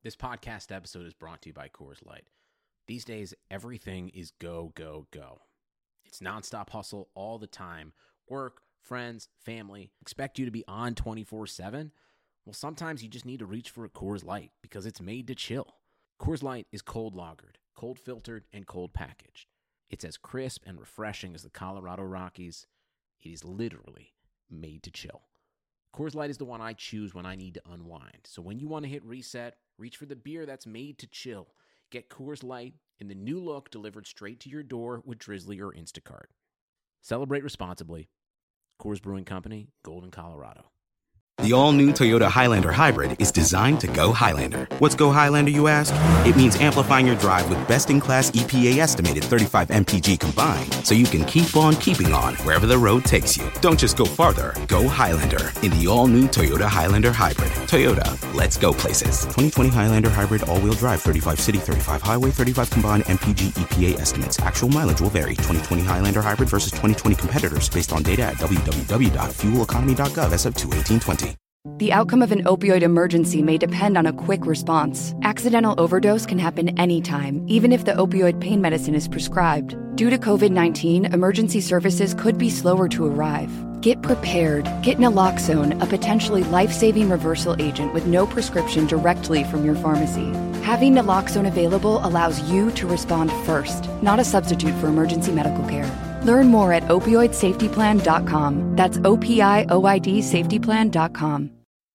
This podcast episode is brought to you by Coors Light. These days, everything is go, go, go. It's nonstop hustle all the time. Work, friends, family, expect you to be on 24/7. Well, sometimes you just need to reach for a Coors Light because it's made to chill. Coors Light is cold lagered, cold filtered, and cold packaged. It's as crisp and refreshing as the Colorado Rockies. It is literally made to chill. Coors Light is the one I choose when I need to unwind. So when you want to hit reset, reach for the beer that's made to chill. Get Coors Light in the new look delivered straight to your door with Drizzly or Instacart. Celebrate responsibly. Coors Brewing Company, Golden, Colorado. The all-new Toyota Highlander Hybrid is designed to go Highlander. What's go Highlander, you ask? It means amplifying your drive with best-in-class EPA-estimated 35 mpg combined, so you can keep on keeping on wherever the road takes you. Don't just go farther, go Highlander in the all-new Toyota Highlander Hybrid. Toyota, let's go places. 2020 Highlander Hybrid all-wheel drive, 35 city, 35 highway, 35 combined mpg EPA estimates. Actual mileage will vary. 2020 Highlander Hybrid versus 2020 competitors based on data at www.fueleconomy.gov as of 2/18/20. The outcome of an opioid emergency may depend on a quick response. Accidental overdose can happen anytime, even if the opioid pain medicine is prescribed. Due to COVID-19, emergency services could be slower to arrive. Get prepared. Get naloxone, a potentially life-saving reversal agent with no prescription directly from your pharmacy. Having naloxone available allows you to respond first, not a substitute for emergency medical care. Learn more at opioidsafetyplan.com. That's OPIOIDsafetyplan.com.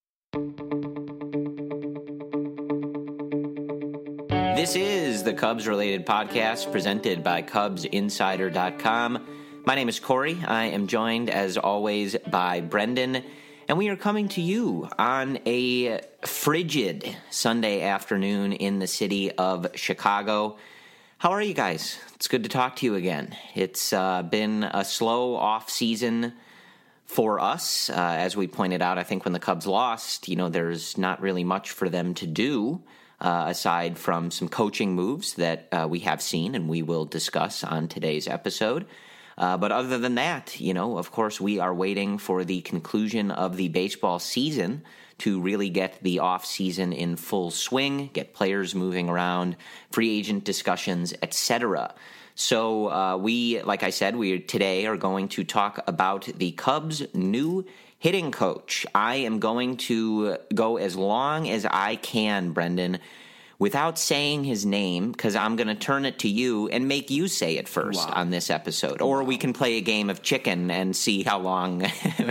This is the Cubs-related podcast presented by CubsInsider.com. My name is Corey. I am joined, as always, by Brendan, and we are coming to you on a frigid Sunday afternoon in the city of Chicago. How are you guys? It's good to talk to you again. It's been a slow off-season for us. As we pointed out, I think when the Cubs lost, there's not really much for them to do aside from some coaching moves that we have seen and we will discuss on today's episode. But other than that, of course, we are waiting for the conclusion of the baseball season to really get the off-season in full swing, get players moving around, free agent discussions, etc. So we, like I said, we today are going to talk about the Cubs' new hitting coach. I am going to go as long as I can, Brendan, without saying his name, because I'm going to turn it to you and make you say it first on this episode. Or we can play a game of chicken and see how long.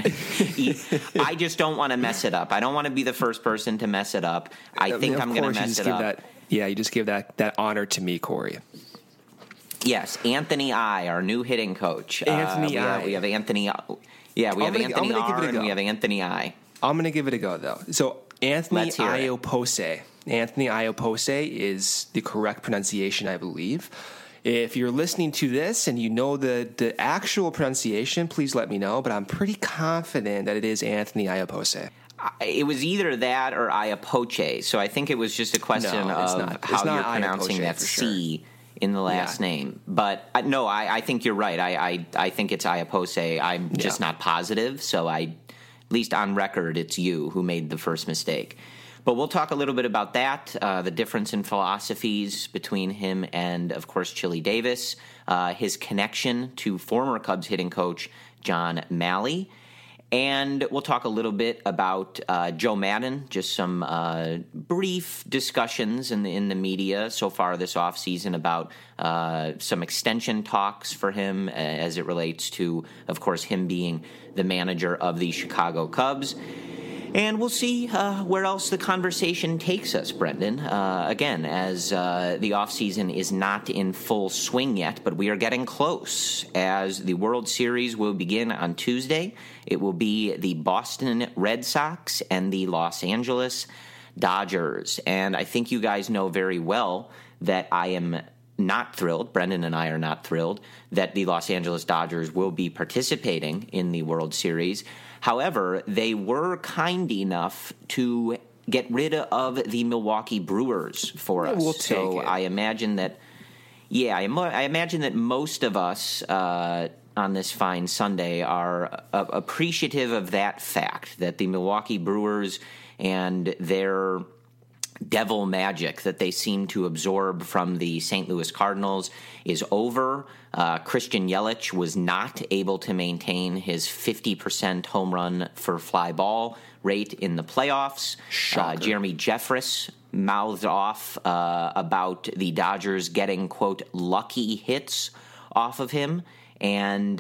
I just don't want to mess it up. I don't want to be the first person to mess it up. I'm going to mess it up. You just give that honor to me, Corey. Yes, Anthony I, our new hitting coach. Anthony I. We have Anthony. Yeah, we have Anthony R and we have Anthony I. I'm going to give it a go, though. So Anthony Iopose. Anthony Iopose is the correct pronunciation, I believe. If you're listening to this and you know the actual pronunciation, please let me know. But I'm pretty confident that it is Anthony Iopose. It was either that or Iapoce. So I think it was just a question of how you're pronouncing that C in the last name. But no, I think you're right. I think it's Iopose. I'm just not positive. So at least on record, it's you who made the first mistake. But we'll talk a little bit about that, the difference in philosophies between him and, of course, Chili Davis, his connection to former Cubs hitting coach John Malley. And we'll talk a little bit about Joe Maddon, just some brief discussions in the media so far this offseason about some extension talks for him as it relates to, of course, him being the manager of the Chicago Cubs. And we'll see where else the conversation takes us, Brendan. Again, as the offseason is not in full swing yet, but we are getting close. As the World Series will begin on Tuesday, it will be the Boston Red Sox and the Los Angeles Dodgers. And I think you guys know very well that I am not thrilled, Brendan and I are not thrilled, that the Los Angeles Dodgers will be participating in the World Series. However, they were kind enough to get rid of the Milwaukee Brewers for us. We'll take it. I imagine that, I imagine that most of us on this fine Sunday are appreciative of that fact, that the Milwaukee Brewers and their devil magic that they seem to absorb from the St. Louis Cardinals is over. Christian Yelich was not able to maintain his 50% home run for fly ball rate in the playoffs. Jeremy Jeffress mouthed off about the Dodgers getting, quote, lucky hits off of him. And,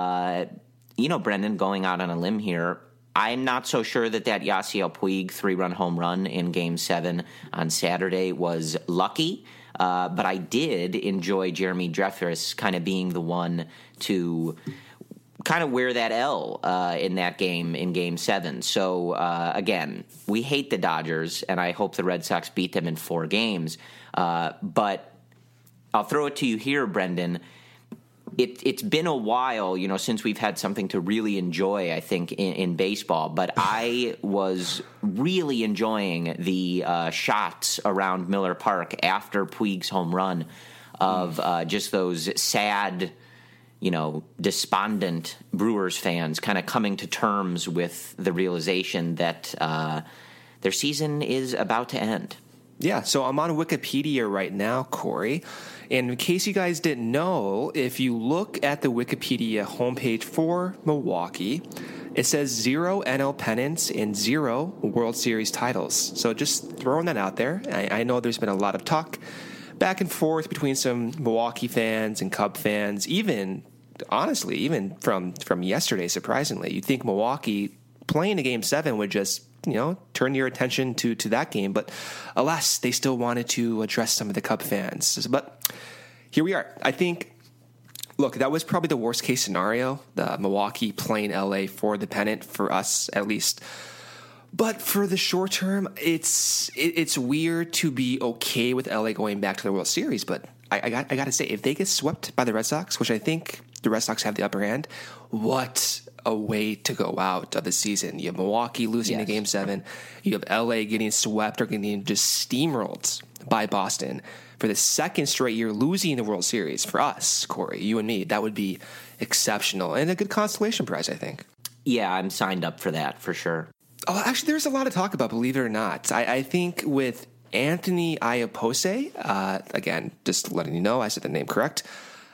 Brendan, going out on a limb here, I'm not so sure that Yasiel Puig 3-run home run in Game 7 on Saturday was lucky, but I did enjoy Jeremy Jeffress kind of being the one to kind of wear that L in that game, in Game 7. So, again, we hate the Dodgers, and I hope the Red Sox beat them in 4 games. But I'll throw it to you here, Brendan. It's been a while, since we've had something to really enjoy, I think, in baseball. But I was really enjoying the shots around Miller Park after Puig's home run of just those sad, despondent Brewers fans kind of coming to terms with the realization that their season is about to end. Yeah, so I'm on Wikipedia right now, Corey. And in case you guys didn't know, if you look at the Wikipedia homepage for Milwaukee, it says 0 NL pennants and 0 World Series titles. So just throwing that out there. I know there's been a lot of talk back and forth between some Milwaukee fans and Cub fans, even from yesterday, surprisingly. You'd think Milwaukee playing a Game 7 would just turn your attention to that game. But alas, they still wanted to address some of the Cub fans. But here we are. I think, look, that was probably the worst case scenario, the Milwaukee playing LA for the pennant, for us at least. But for the short term, it's weird to be okay with LA going back to the World Series. But I got to say, if they get swept by the Red Sox, which I think the Red Sox have the upper hand, what a way to go out of the season. You have Milwaukee losing the Game 7. You have LA getting swept or getting just steamrolled by Boston for the second straight year, losing the World Series. For us, Corey, you and me, that would be exceptional and a good consolation prize, I think. Yeah, I'm signed up for that for sure. Oh, actually, there's a lot to talk about, believe it or not. I think with Anthony Iapose, again, just letting you know, I said the name correct.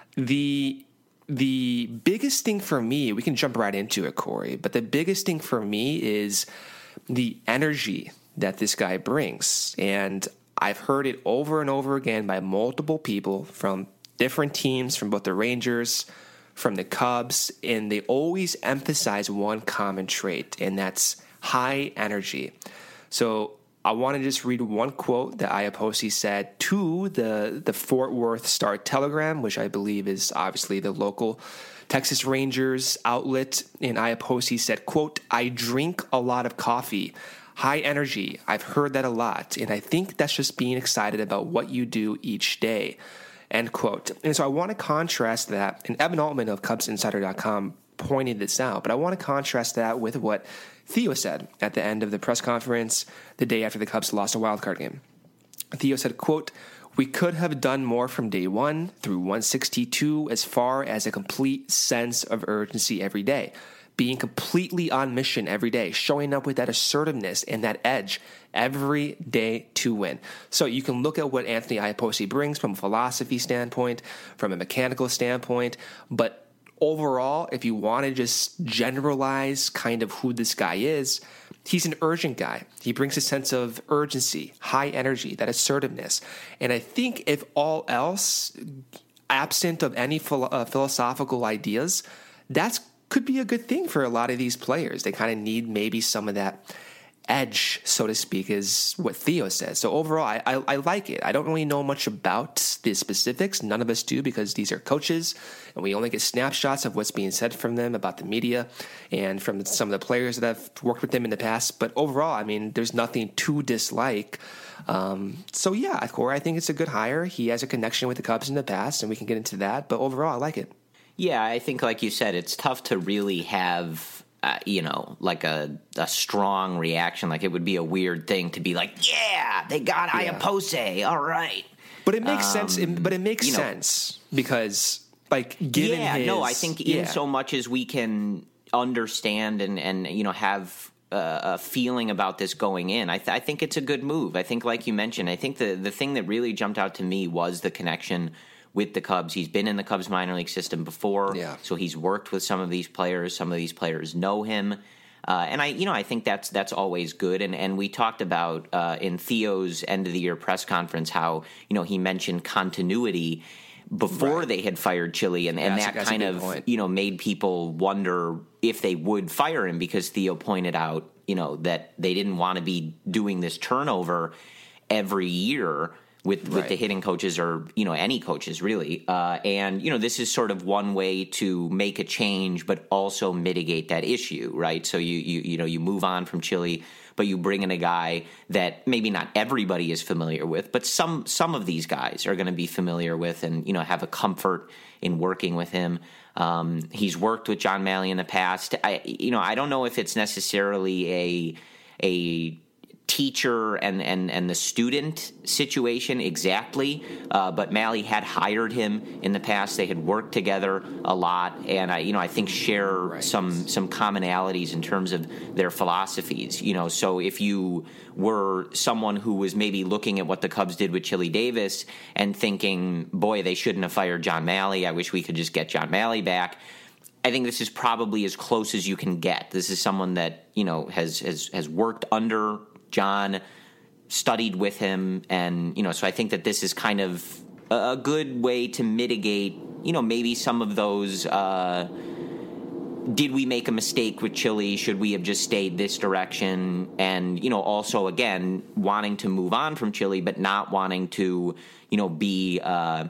The biggest thing for me, we can jump right into it, Corey, but the biggest thing for me is the energy that this guy brings. And I've heard it over and over again by multiple people from different teams, from both the Rangers, from the Cubs, and they always emphasize one common trait, and that's high energy. So I want to just read one quote that Iapose said to the Fort Worth Star-Telegram, which I believe is obviously the local Texas Rangers outlet. And Iapose said, quote, "I drink a lot of coffee. High energy. I've heard that a lot. And I think that's just being excited about what you do each day." End quote. And so I want to contrast that. And Evan Altman of CubsInsider.com pointed this out. But I want to contrast that with what Theo said at the end of the press conference the day after the Cubs lost a wildcard game. Theo said, quote, "We could have done more from day 1 through 162 as far as a complete sense of urgency every day. Being completely on mission every day, showing up with that assertiveness and that edge every day to win." So you can look at what Anthony Iapose brings from a philosophy standpoint, from a mechanical standpoint, but overall, if you want to just generalize kind of who this guy is, he's an urgent guy. He brings a sense of urgency, high energy, that assertiveness. And I think if all else, absent of any philosophical ideas, that could be a good thing for a lot of these players. They kind of need maybe some of that edge, so to speak, is what Theo says. So overall, I like it. I don't really know much about the specifics. None of us do, because these are coaches, and we only get snapshots of what's being said from them about the media and from some of the players that have worked with them in the past. But overall, I mean, there's nothing to dislike. So yeah, Corey, I think it's a good hire. He has a connection with the Cubs in the past, and we can get into that. But overall, I like it. Yeah, I think, like you said, it's tough to really have like a strong reaction. Like, it would be a weird thing to be like, yeah, they got Iapose, all right. But it makes sense. But it makes sense because, like, given his... I think in so much as we can understand and have feeling about this going in. I think it's a good move. I think, like you mentioned, I think the thing that really jumped out to me was the connection with the Cubs. He's been in the Cubs minor league system before, so he's worked with some of these players. Some of these players know him. And I think that's always good. And we talked about in Theo's end of the year press conference how, he mentioned continuity before they had fired Chili, and that kind of point. Made people wonder if they would fire him, because Theo pointed out that they didn't want to be doing this turnover every year with the hitting coaches, or any coaches really, and this is sort of one way to make a change but also mitigate that issue, right? So you move on from Chili, but you bring in a guy that maybe not everybody is familiar with, but some of these guys are going to be familiar with, and have a comfort in working with him. He's worked with John Mahle in the past. I don't know if it's necessarily a teacher and the student situation exactly, but Mahle had hired him in the past. They had worked together a lot, and I think share some commonalities in terms of their philosophies. So if you were someone who was maybe looking at what the Cubs did with Chili Davis and thinking, boy, they shouldn't have fired John Mahle, I wish we could just get John Mahle back, I think this is probably as close as you can get. This is someone that has worked under John, studied with him, and so I think that this is kind of a good way to mitigate maybe some of those did we make a mistake with Chili, should we have just stayed this direction, and also again wanting to move on from Chili but not wanting to be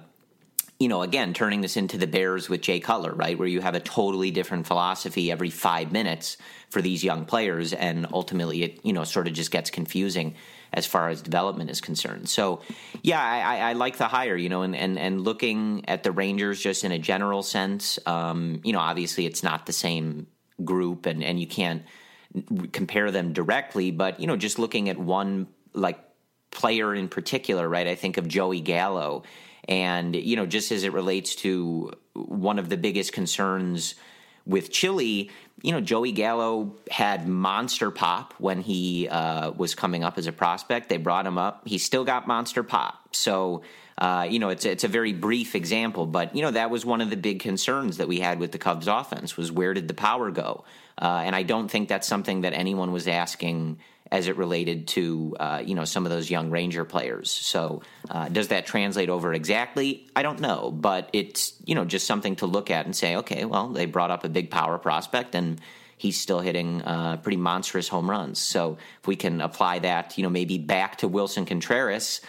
again, turning this into the Bears with Jay Cutler, right, where you have a totally different philosophy every 5 minutes for these young players, and ultimately it, sort of just gets confusing as far as development is concerned. So, yeah, I like the hire, and looking at the Rangers just in a general sense, obviously it's not the same group, and you can't compare them directly, but, just looking at one, player in particular, right, I think of Joey Gallo. And, just as it relates to one of the biggest concerns with Chili, Joey Gallo had monster pop when he was coming up as a prospect. They brought him up. He still got monster pop. So, it's a very brief example. But, that was one of the big concerns that we had with the Cubs offense was where did the power go? And I don't think that's something that anyone was asking as it related to, some of those young Ranger players. So does that translate over exactly? I don't know. But it's, just something to look at and say, okay, well, they brought up a big power prospect and he's still hitting pretty monstrous home runs. So if we can apply that, maybe back to Wilson Contreras,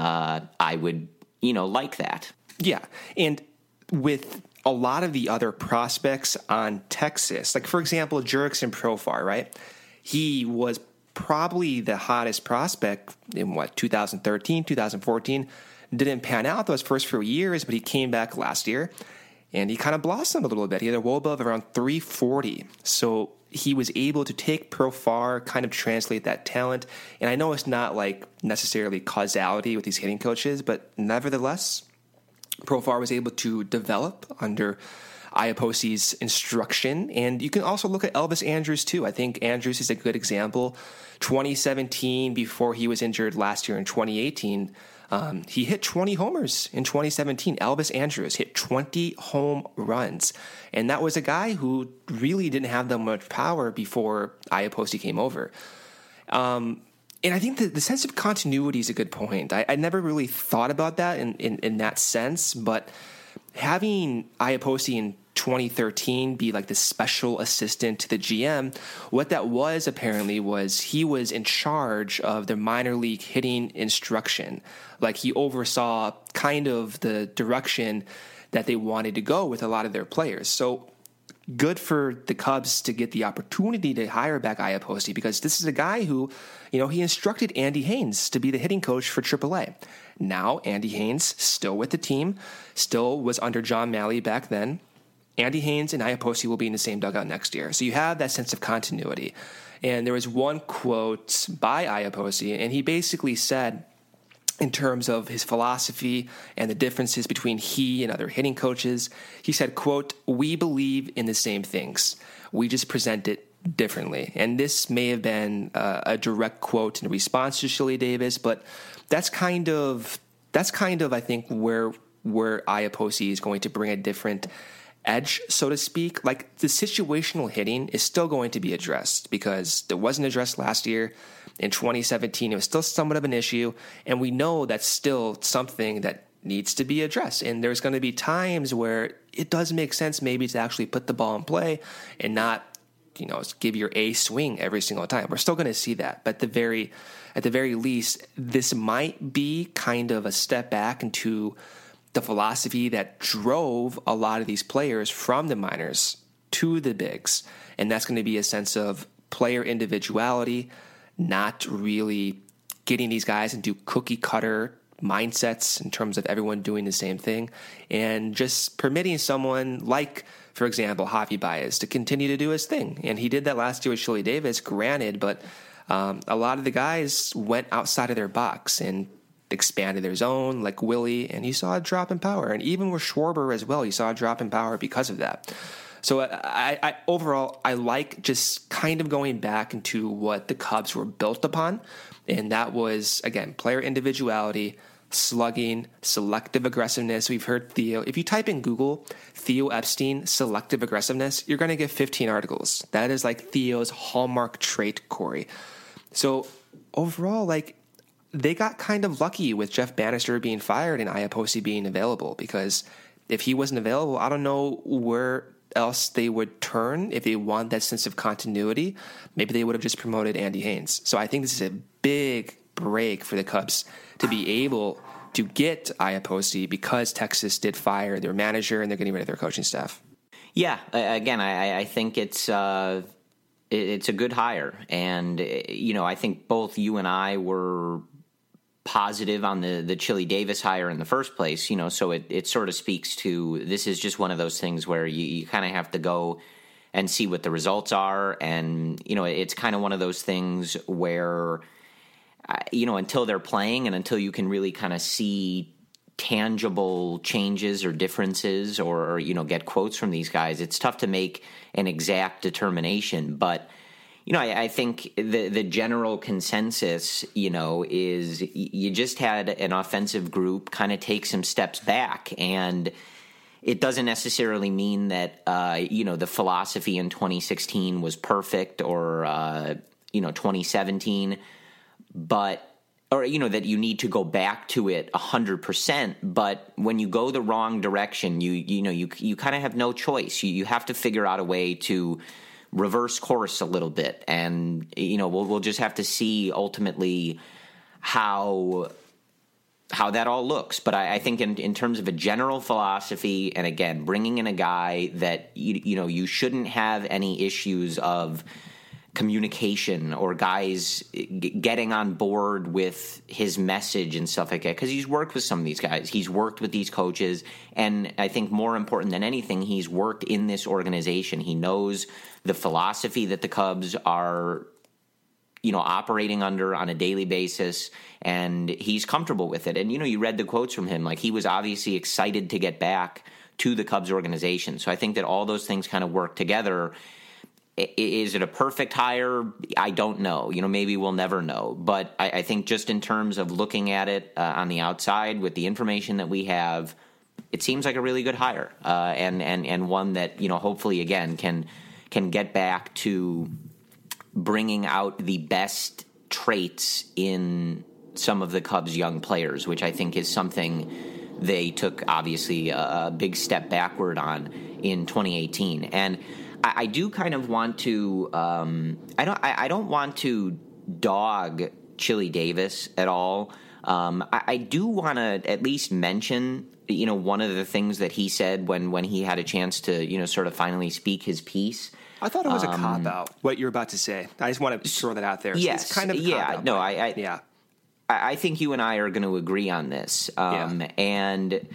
I would, like that. Yeah. And with a lot of the other prospects on Texas, like, for example, Jurickson Profar, right? He was probably the hottest prospect in 2013, 2014. Didn't pan out those first few years, but he came back last year and he kind of blossomed a little bit. He had a WOBA of around 340. So he was able to take Profar, kind of translate that talent. And I know it's not necessarily causality with these hitting coaches, but nevertheless, Profar was able to develop under Iaposi's instruction. And you can also look at Elvis Andrus too. I think Andrus is a good example. 2017, before he was injured last year in 2018, he hit 20 homers in 2017. Elvis Andrus hit 20 home runs. And that was a guy who really didn't have that much power before Iapoce came over. And I think the sense of continuity is a good point. I never really thought about that in that sense, but having Iapoce in 2013 be the special assistant to the GM, what that was apparently was he was in charge of the minor league hitting instruction. He oversaw kind of the direction that they wanted to go with a lot of their players. So good for the Cubs to get the opportunity to hire back Iapoce, because this is a guy who, he instructed Andy Haynes to be the hitting coach for AAA. Now Andy Haynes still with the team, still was under John Mahle back then. Andy Haynes and Iapoce will be in the same dugout next year. So you have that sense of continuity. And there was one quote by Iapoce, and he basically said, in terms of his philosophy and the differences between he and other hitting coaches, he said, quote, "We believe in the same things. We just present it differently. And this may have been a direct quote in response to Chili Davis, but that's kind of I think where Iapoce is going to bring a different edge, so to speak. Like, the situational hitting is still going to be addressed because it wasn't addressed last year. In 2017, it was still somewhat of an issue, and we know that's still something that needs to be addressed. And there's going to be times where it does make sense maybe to actually put the ball in play and not, give your A swing every single time. We're still going to see that, but at the very least, this might be kind of a step back into the philosophy that drove a lot of these players from the minors to the bigs. And that's going to be a sense of player individuality, not really getting these guys into cookie cutter mindsets in terms of everyone doing the same thing, and just permitting someone like, for example, Javi Baez to continue to do his thing. And he did that last year with Chili Davis, granted, but a lot of the guys went outside of their box and expanded their zone, like Willie, and you saw a drop in power. And even with Schwarber as well, you saw a drop in power because of that. So I overall, I like just kind of going back into what the Cubs were built upon, and that was, again, player individuality, slugging, selective aggressiveness. We've heard Theo. If you type in Google Theo Epstein selective aggressiveness, you're going to get 15 articles. That is like Theo's hallmark trait, Corey. So overall, like, they got kind of lucky with Jeff Bannister being fired and Iapoce being available, because if he wasn't available, I don't know where else they would turn if they want that sense of continuity. Maybe they would have just promoted Andy Haynes. So I think this is a big break for the Cubs to be able to get Iapoce, because Texas did fire their manager and they're getting rid of their coaching staff. Yeah, again, I think it's a good hire. And, I think both you and I were positive on the Chili Davis hire in the first place, so it sort of speaks to, this is just one of those things where you kind of have to go and see what the results are. And, it's kind of one of those things where, until they're playing and until you can really kind of see tangible changes or differences or get quotes from these guys, it's tough to make an exact determination. But I think the general consensus, is you just had an offensive group kind of take some steps back, and it doesn't necessarily mean that, the philosophy in 2016 was perfect or, 2017, or that you need to go back to it 100%. But when you go the wrong direction, you kind of have no choice. You have to figure out a way to reverse course a little bit, and we'll just have to see ultimately how that all looks. But I think in terms of a general philosophy, and again, bringing in a guy that you shouldn't have any issues of communication or guys getting on board with his message and stuff like that, because he's worked with some of these guys, he's worked with these coaches, and I think more important than anything, he's worked in this organization. He knows the philosophy that the Cubs are operating under on a daily basis, and he's comfortable with it. And you read the quotes from him, like, he was obviously excited to get back to the Cubs organization. So I think that all those things kind of work together. Is it a perfect hire? I don't know. Maybe we'll never know. But I think just in terms of looking at it on the outside with the information that we have, it seems like a really good hire, and one that hopefully again can get back to bringing out the best traits in some of the Cubs' young players, which I think is something they took obviously a big step backward on in 2018. And I do kind of want to I don't want to dog Chili Davis at all. I do want to at least mention one of the things that he said when he had a chance to sort of finally speak his piece. I thought it was a cop out, what you're about to say. I just want to throw that out there. Yes, it's kind of a cop out. No, I think you and I are going to agree on this. And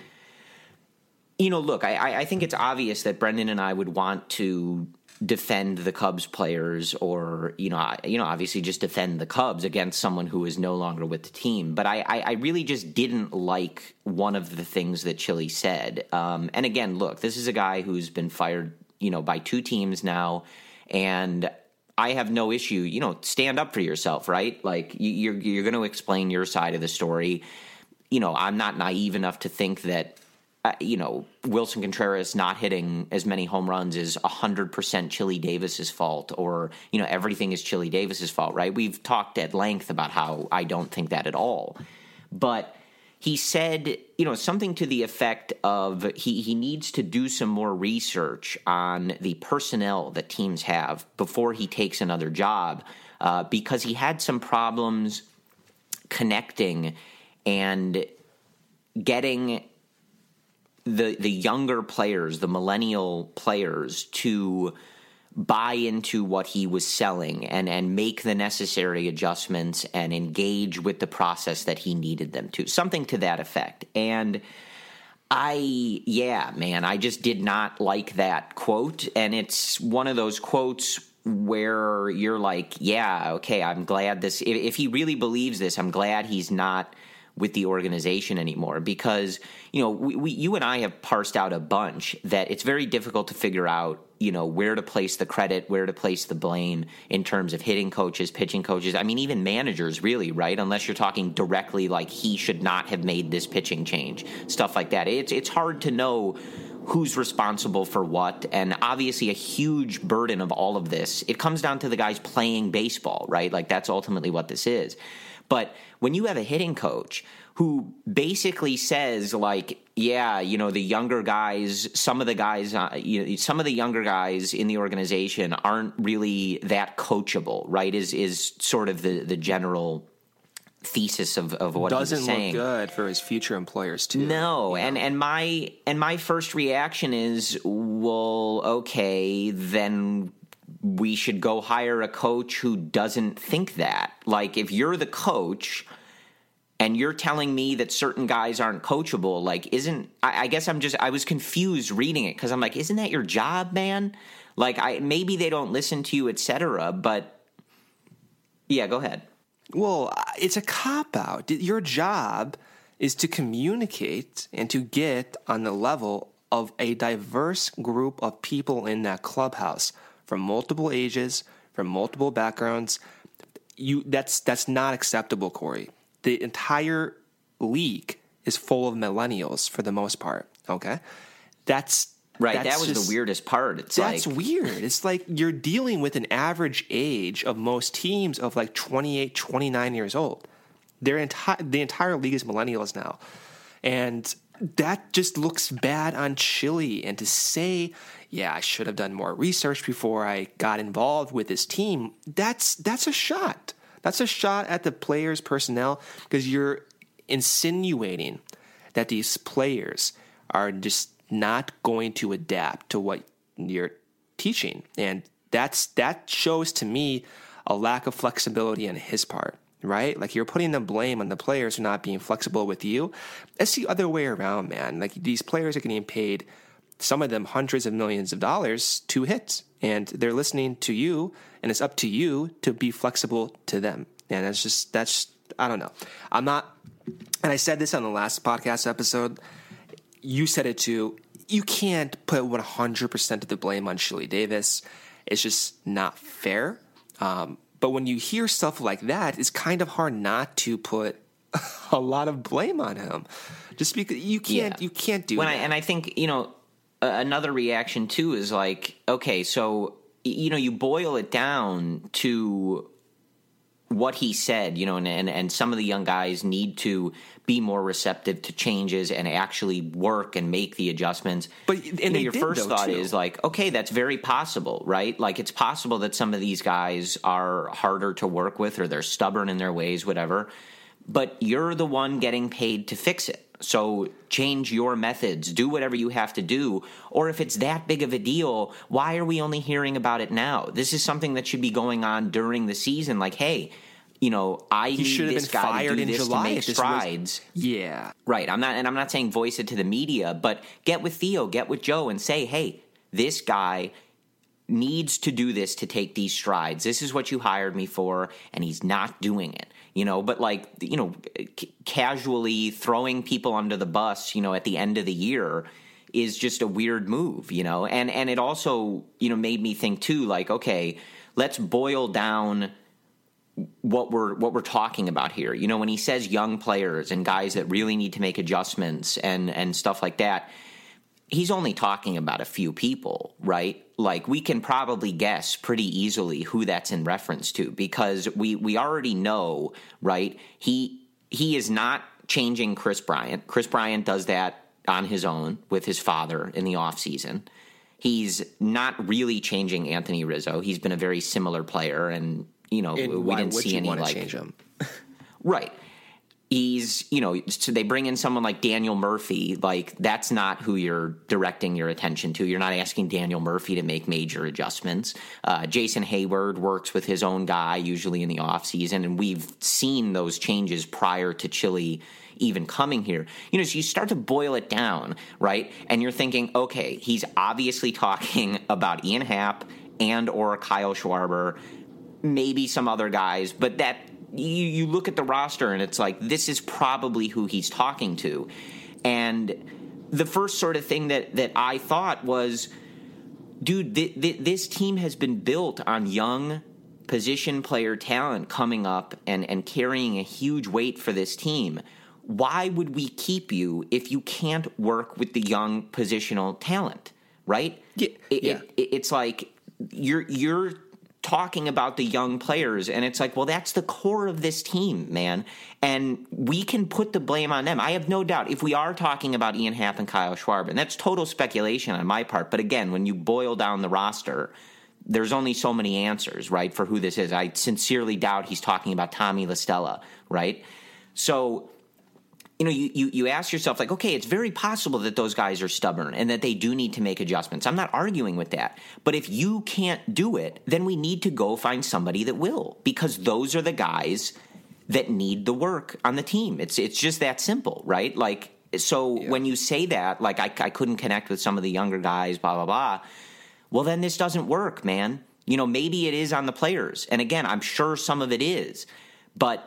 look, I think it's obvious that Brendan and I would want to defend the Cubs players, or obviously just defend the Cubs against someone who is no longer with the team. But I really just didn't like one of the things that Chili said. And again, look, this is a guy who's been fired, by two teams now, and I have no issue, stand up for yourself, right? Like you're going to explain your side of the story. I'm not naive enough to think that, Wilson Contreras not hitting as many home runs is 100% Chili Davis's fault, or, everything is Chili Davis's fault, right? We've talked at length about how I don't think that at all. But he said, something to the effect of he needs to do some more research on the personnel that teams have before he takes another job, because he had some problems connecting and getting the younger players, the millennial players, to buy into what he was selling and make the necessary adjustments and engage with the process that he needed them to. Something to that effect. And I just did not like that quote. And it's one of those quotes where you're like, yeah, okay, I'm glad this, if he really believes this, I'm glad he's not with the organization anymore, because, you and I have parsed out a bunch that it's very difficult to figure out, where to place the credit, where to place the blame in terms of hitting coaches, pitching coaches. I mean, even managers, really, right? Unless you're talking directly like he should not have made this pitching change, stuff like that. It's hard to know who's responsible for what, and obviously a huge burden of all of this, it comes down to the guys playing baseball, right? Like that's ultimately what this is. But when you have a hitting coach who basically says, like, yeah, the younger guys, some of the younger guys in the organization aren't really that coachable, right? Is sort of the general thesis of what he's saying. Doesn't look good for his future employers too. No, and my first reaction is, well, okay, then we should go hire a coach who doesn't think that. Like, if you're the coach and you're telling me that certain guys aren't coachable, like, I guess I was confused reading it, because I'm like, isn't that your job, man? Like, maybe they don't listen to you, etc. But yeah, go ahead. Well, it's a cop-out. Your job is to communicate and to get on the level of a diverse group of people in that clubhouse, from multiple ages, from multiple backgrounds. That's not acceptable, Corey. The entire league is full of millennials for the most part. Okay, that's right. That was the weirdest part. That's weird. It's like you're dealing with an average age of most teams of like 28, 29 years old. The entire league is millennials now, and that just looks bad on Chili. And to say, yeah, I should have done more research before I got involved with this team, that's a shot. That's a shot at the players' personnel, because you're insinuating that these players are just not going to adapt to what you're teaching. And that shows to me a lack of flexibility on his part, right? Like, you're putting the blame on the players for not being flexible with you. It's the other way around, man. Like, these players are getting paid, some of them hundreds of millions of dollars, to hit, and they're listening to you, and it's up to you to be flexible to them. And that's I don't know. I'm not, and I said this on the last podcast episode, you said it too, you can't put 100% of the blame on Chili Davis. It's just not fair. But when you hear stuff like that, it's kind of hard not to put a lot of blame on him, just because you can't do that. And I think, another reaction too is like, okay, so, you boil it down to what he said, and some of the young guys need to be more receptive to changes and actually work and make the adjustments. But your first thought is like, okay, that's very possible, right? Like, it's possible that some of these guys are harder to work with, or they're stubborn in their ways, whatever. But you're the one getting paid to fix it. So change your methods, do whatever you have to do. Or if it's that big of a deal, why are we only hearing about it now? This is something that should be going on during the season. Like, hey, I need this guy to do this to make strides. Yeah. Right. I'm not saying voice it to the media, but get with Theo, get with Joe, and say, hey, this guy needs to do this to take these strides. This is what you hired me for, and he's not doing it. But casually throwing people under the bus, at the end of the year is just a weird move, and it also, made me think too, like, okay, let's boil down what we're talking about here. You know, when he says young players and guys that really need to make adjustments and stuff like that, he's only talking about a few people, right? Like, we can probably guess pretty easily who that's in reference to, because we already know, right? He is not changing Chris Bryant. Chris Bryant does that on his own with his father in the offseason. He's not really changing Anthony Rizzo. He's been a very similar player, and, you know, we didn't see any, like, change him? Right. He's, you know, so they bring in someone like Daniel Murphy. Like, that's not who you're directing your attention to. You're not asking Daniel Murphy to make major adjustments. Jason Hayward works with his own guy, usually in the offseason, and we've seen those changes prior to Chile even coming here. You know, so you start to boil it down, right? And you're thinking, okay, he's obviously talking about Ian Happ and or Kyle Schwarber, maybe some other guys, but that you look at the roster and it's like, this is probably who he's talking to. And the first sort of thing that I thought was, dude, this team has been built on young position player talent coming up and carrying a huge weight for this team. Why would we keep you if you can't work with the young positional talent, right? Yeah. It's like you're talking about the young players, and it's like, well, that's the core of this team, man, and we can put the blame on them. I have no doubt if we are talking about Ian Happ and Kyle Schwarber, and that's total speculation on my part, but again, when you boil down the roster, there's only so many answers, right, for who this is. I sincerely doubt he's talking about Tommy La Stella, right? So, you know, you ask yourself, like, okay, it's very possible that those guys are stubborn and that they do need to make adjustments. I'm not arguing with that. But if you can't do it, then we need to go find somebody that will, because those are the guys that need the work on the team. It's just that simple, right? Like, so when you say that, like, I couldn't connect with some of the younger guys, blah, blah, blah, well, then this doesn't work, man. You know, maybe it is on the players. And again, I'm sure some of it is. But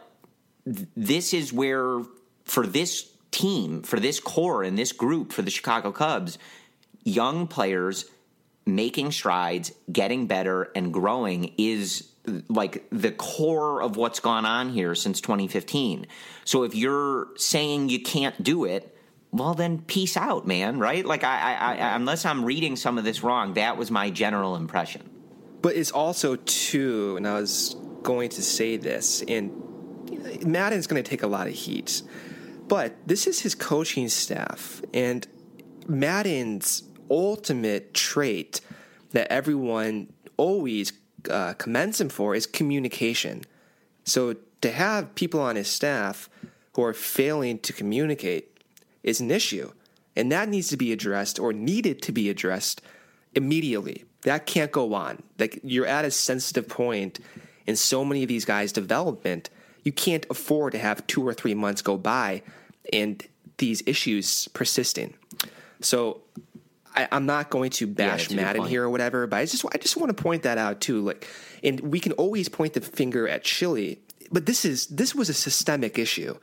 this is where, for this team, for this core and this group, for the Chicago Cubs, young players making strides, getting better, and growing is like the core of what's gone on here since 2015. So if you're saying you can't do it, well, then peace out, man, right? Like, I unless I'm reading some of this wrong, that was my general impression. But it's also, too, and I was going to say this, and Maddon's going to take a lot of heat, but this is his coaching staff, and Maddon's ultimate trait that everyone always commends him for is communication. So to have people on his staff who are failing to communicate is an issue, and that needs to be addressed, or needed to be addressed, immediately. That can't go on. Like, you're at a sensitive point in so many of these guys' development. You can't afford to have 2 or 3 months go by and these issues persisting. So I'm not going to bash Maddon here or whatever, but I just want to point that out too. Like, and we can always point the finger at Chile, but this was a systemic issue.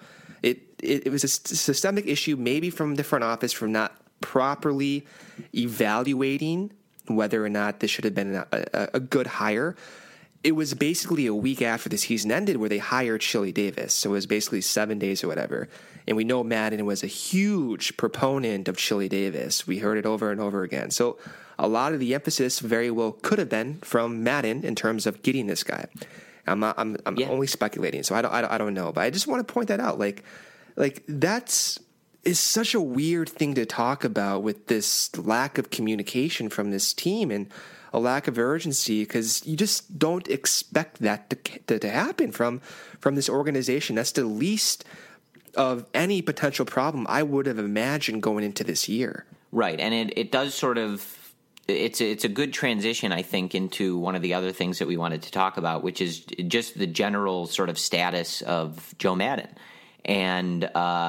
It was a systemic issue, maybe from the front office, from not properly evaluating whether or not this should have been a good hire. It was basically a week after the season ended where they hired Chili Davis. So it was basically 7 days or whatever. And we know Maddon was a huge proponent of Chili Davis. We heard it over and over again. So a lot of the emphasis very well could have been from Maddon in terms of getting this guy. I'm only speculating, so I don't know. But I just want to point that out. Like that's is such a weird thing to talk about, with this lack of communication from this team and a lack of urgency, because you just don't expect that to happen from this organization. That's the least of any potential problem I would have imagined going into this year. Right, and it does sort of it's a good transition, I think, into one of the other things that we wanted to talk about, which is just the general sort of status of Joe Maddon. And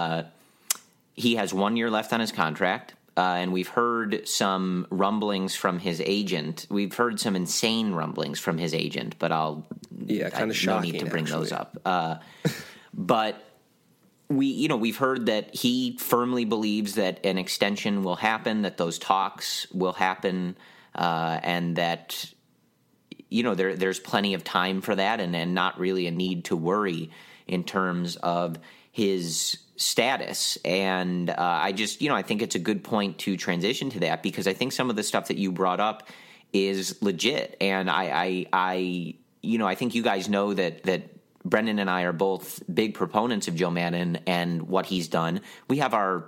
he has 1 year left on his contract. And we've heard some rumblings from his agent. We've heard some insane rumblings from his agent, but kind of shocking. No need to bring those up. But we've heard that he firmly believes that an extension will happen, that those talks will happen, and that there's plenty of time for that, and not really a need to worry in terms of his status. And I think it's a good point to transition to that, because I think some of the stuff that you brought up is legit. And I think you guys know that Brendan and I are both big proponents of Joe Maddon and what he's done. We have our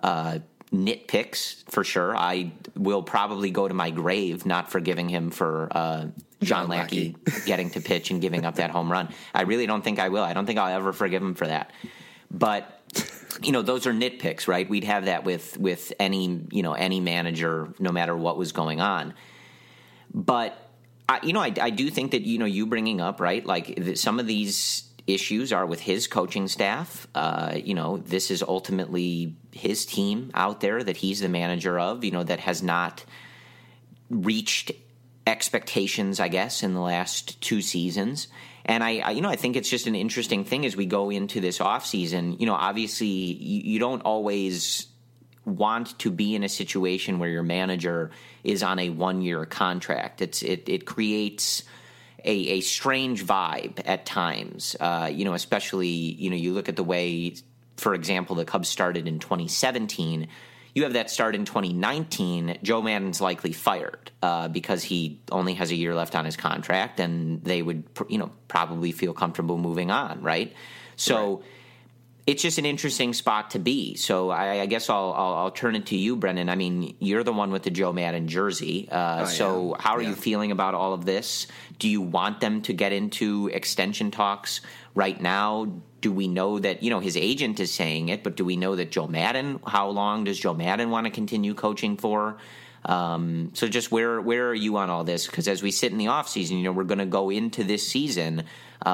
nitpicks for sure. I will probably go to my grave not forgiving him for John Lackey getting to pitch and giving up that home run. I really don't think I will. I don't think I'll ever forgive him for that. But those are nitpicks, right? We'd have that with any manager, no matter what was going on. But I do think that you bringing up, right, like some of these issues are with his coaching staff. This is ultimately his team out there that he's the manager of, that has not reached expectations, I guess, in the last 2 seasons. And I think it's just an interesting thing as we go into this offseason. Obviously you don't always want to be in a situation where your manager is on a 1-year contract. It creates a strange vibe at times, especially, you look at the way, for example, the Cubs started in 2017. You have that start in 2019. Joe Maddon's likely fired because he only has a year left on his contract, and they would, probably feel comfortable moving on, right? So right. It's just an interesting spot to be. So I guess I'll turn it to you, Brendan. I mean, you're the one with the Joe Maddon jersey. So how are you feeling about all of this? Do you want them to get into extension talks right now? Do we know that, his agent is saying it, but do we know that Joe Maddon, how long does Joe Maddon want to continue coaching for? So just where are you on all this? Because as we sit in the offseason, we're going to go into this season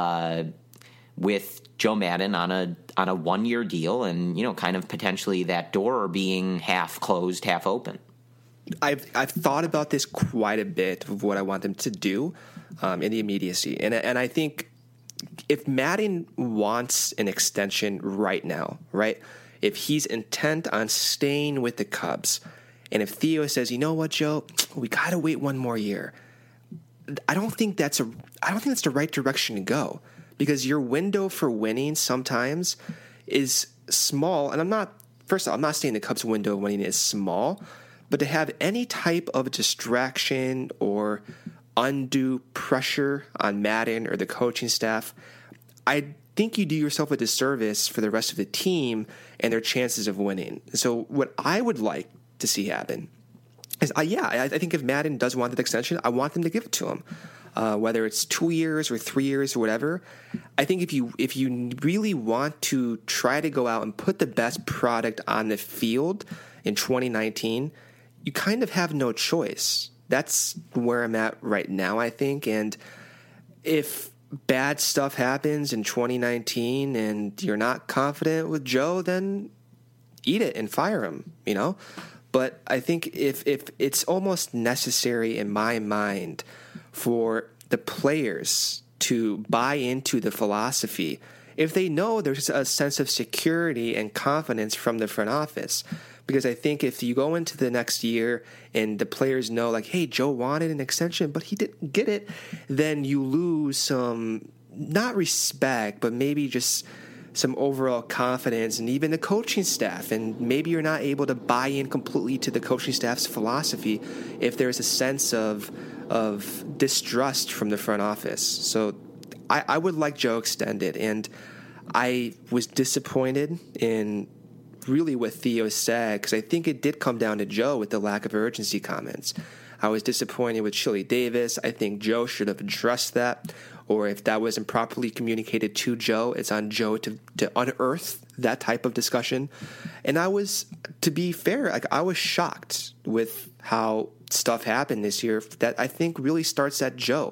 with Joe Maddon on a 1-year deal, and kind of potentially that door being half closed, half open. I've thought about this quite a bit of what I want them to do in the immediacy, and I think if Maddon wants an extension right now, right? If he's intent on staying with the Cubs, and if Theo says, you know what, Joe, we got to wait 1 more year, I don't think that's the right direction to go. Because your window for winning sometimes is small. And I'm not saying the Cubs' window of winning is small, but to have any type of distraction or undue pressure on Maddon or the coaching staff, I think you do yourself a disservice for the rest of the team and their chances of winning. So what I would like to see happen is, I think if Maddon does want that extension, I want them to give it to him. Whether it's 2 years or 3 years or whatever. I think if you really want to try to go out and put the best product on the field in 2019, you kind of have no choice. That's where I'm at right now, I think. And if bad stuff happens in 2019 and you're not confident with Joe, then eat it and fire him, But I think if it's almost necessary in my mind for the players to buy into the philosophy, if they know there's a sense of security and confidence from the front office. Because I think if you go into the next year and the players know, like, hey, Joe wanted an extension, but he didn't get it, then you lose some, not respect, but maybe just some overall confidence, and even the coaching staff. And maybe you're not able to buy in completely to the coaching staff's philosophy if there's a sense of distrust from the front office. So I would like Joe extended, and I was disappointed in really what Theo said, because I think it did come down to Joe with the lack of urgency comments. I was disappointed with Chili Davis. I think Joe should have addressed that, or if that wasn't properly communicated to Joe, it's on Joe to unearth that type of discussion. And I was, to be fair, I was shocked with how stuff happened this year that I think really starts at Joe.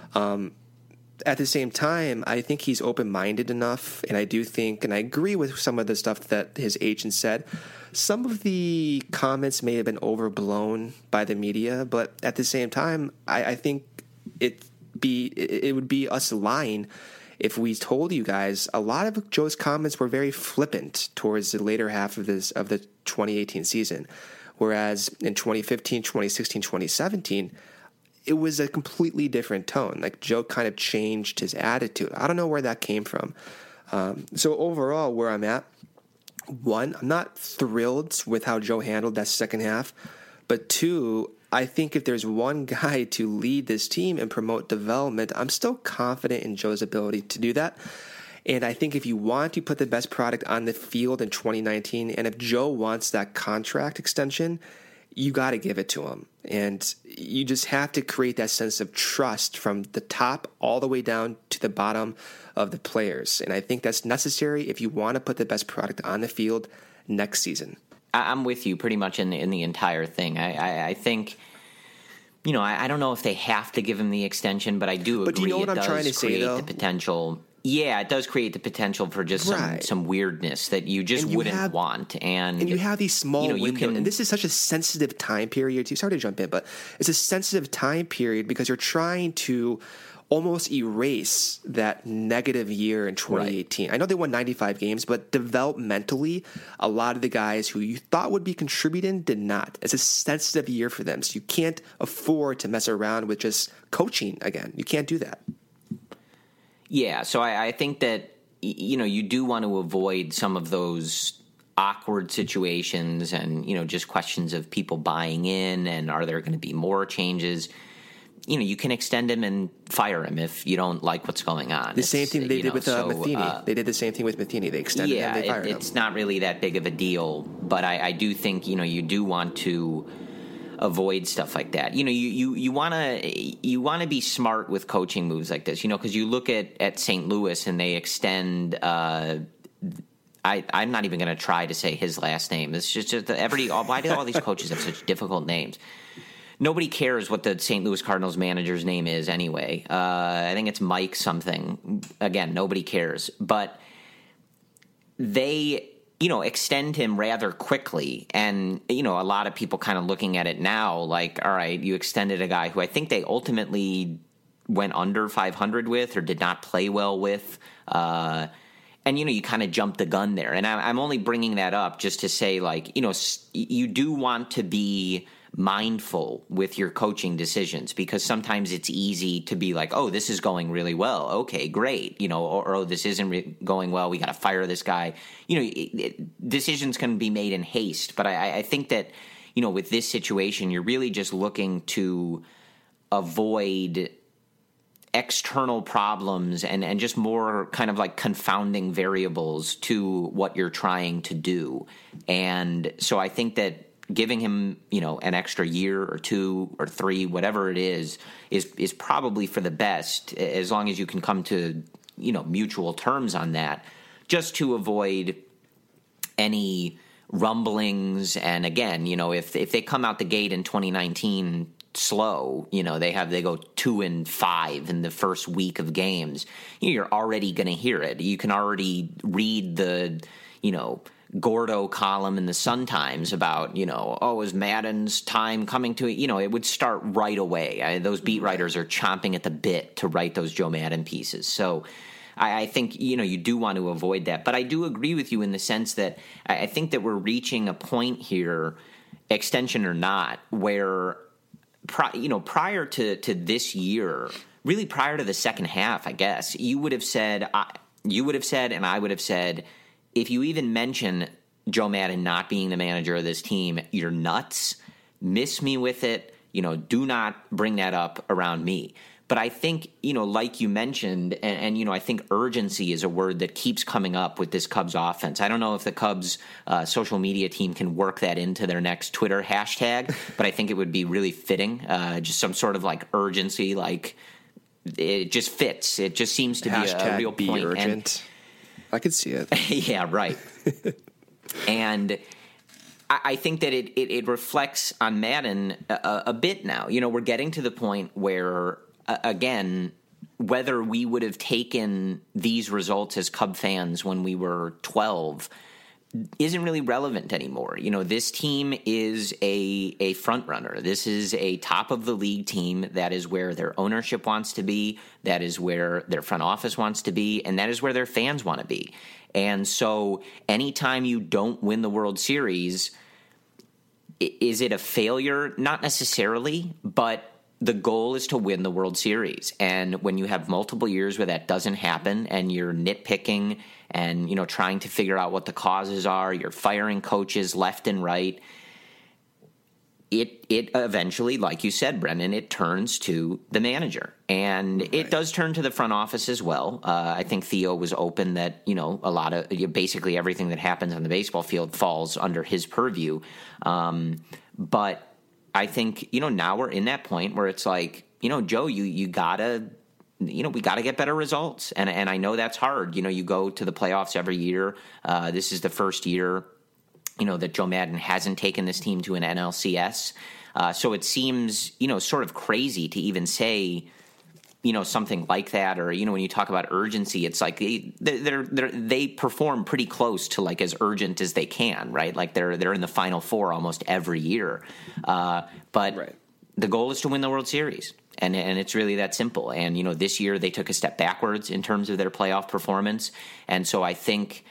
At the same time, I think he's open-minded enough, and I do think, and I agree with some of the stuff that his agent said. Some of the comments may have been overblown by the media, but at the same time, I think it would be us lying if we told you guys a lot of Joe's comments were very flippant towards the later half of the 2018 season. Whereas in 2015, 2016, 2017, it was a completely different tone. Like Joe kind of changed his attitude. I don't know where that came from. So overall, where I'm at, one, I'm not thrilled with how Joe handled that second half. But two, I think if there's one guy to lead this team and promote development, I'm still confident in Joe's ability to do that. And I think if you want to put the best product on the field in 2019, and if Joe wants that contract extension, you got to give it to him. And you just have to create that sense of trust from the top all the way down to the bottom of the players. And I think that's necessary if you want to put the best product on the field next season. I'm with you pretty much in the entire thing. I think, you know, I don't know if they have to give him the extension, but I do agree. But do you know what I'm trying to say, though? The potential. Yeah, it does create the potential for just some weirdness that you just wouldn't want. And you have these small windows, and this is such a sensitive time period too. Sorry to jump in, but it's a sensitive time period because you're trying to almost erase that negative year in 2018. Right. I know they won 95 games, but developmentally, a lot of the guys who you thought would be contributing did not. It's a sensitive year for them, so you can't afford to mess around with just coaching again. You can't do that. Yeah, so I think that, you know, you do want to avoid some of those awkward situations and, you know, just questions of people buying in and are there going to be more changes. You know, you can extend him and fire him if you don't like what's going on. The same thing they did with Matheny. They did the same thing with Matheny. They extended him and they fired him. It's not really that big of a deal, but I do think, you know, you do want to avoid stuff like that. You know, you want to be smart with coaching moves like this, you know, because you look at St. Louis and they extend I'm not even going to try to say his last name. It's just why do all these coaches have such difficult names? Nobody cares what the St. Louis Cardinals manager's name is anyway. I think it's Mike something. Again, nobody cares. But they, you know, extend him rather quickly. And, you know, a lot of people kind of looking at it now like, all right, you extended a guy who I think they ultimately went under 500 with or did not play well with. And, you know, you kind of jumped the gun there. And I'm only bringing that up just to say, like, you know, you do want to be mindful with your coaching decisions because sometimes it's easy to be like, oh, this is going really well. Okay, great. You know, or oh, this isn't going well. We got to fire this guy. You know, decisions can be made in haste. But I think that, you know, with this situation, you're really just looking to avoid external problems and just more kind of like confounding variables to what you're trying to do. And so I think that giving him, you know, an extra year or 2 or 3, whatever it is probably for the best, as long as you can come to, you know, mutual terms on that, just to avoid any rumblings. And again, you know, if they come out the gate in 2019 slow, you know, they go 2-5 in the first week of games, you know, you're already going to hear it. You can already read the, you know, Gordo column in the Sun-Times about, you know, oh, is Madden's time coming to it? You know, it would start right away. Those beat writers are chomping at the bit to write those Joe Madden pieces. So I think, you know, you do want to avoid that. But I do agree with you in the sense that I think that we're reaching a point here, extension or not, where, you know, prior to this year, really prior to the second half, I guess, you would have said, and I would have said, if you even mention Joe Madden not being the manager of this team, you're nuts. Miss me with it. You know, do not bring that up around me. But I think, you know, like you mentioned, and you know, I think urgency is a word that keeps coming up with this Cubs offense. I don't know if the Cubs social media team can work that into their next Twitter hashtag, but I think it would be really fitting. Just some sort of like urgency, like it just fits. It just seems to be a real point. Urgent. I could see it. Yeah, right. And I think that it reflects on Madden a bit now. You know, we're getting to the point where, again, whether we would have taken these results as Cub fans when we were 12 isn't really relevant anymore. You know, this team is a front runner. This is a top of the league team. That is where their ownership wants to be. That is where their front office wants to be. And that is where their fans want to be. And so anytime you don't win the World Series, is it a failure? Not necessarily, but the goal is to win the World Series. And when you have multiple years where that doesn't happen and you're nitpicking and, you know, trying to figure out what the causes are, you're firing coaches left and right, it eventually, like you said, Brendan, it turns to the manager. And it does turn to the front office as well. I think Theo was open that, you know, a lot of basically everything that happens on the baseball field falls under his purview. But I think, you know, now we're in that point where it's like, you know, Joe, you gotta, you know, we got to get better results. And I know that's hard. You know, you go to the playoffs every year. This is the first year, you know, that Joe Maddon hasn't taken this team to an NLCS. So it seems, you know, sort of crazy to even say, you know, something like that. Or, you know, when you talk about urgency, it's like they perform pretty close to like as urgent as they can, right? Like they're in the Final Four almost every year. But the goal is to win the World Series. And it's really that simple. And, you know, this year they took a step backwards in terms of their playoff performance. And so I think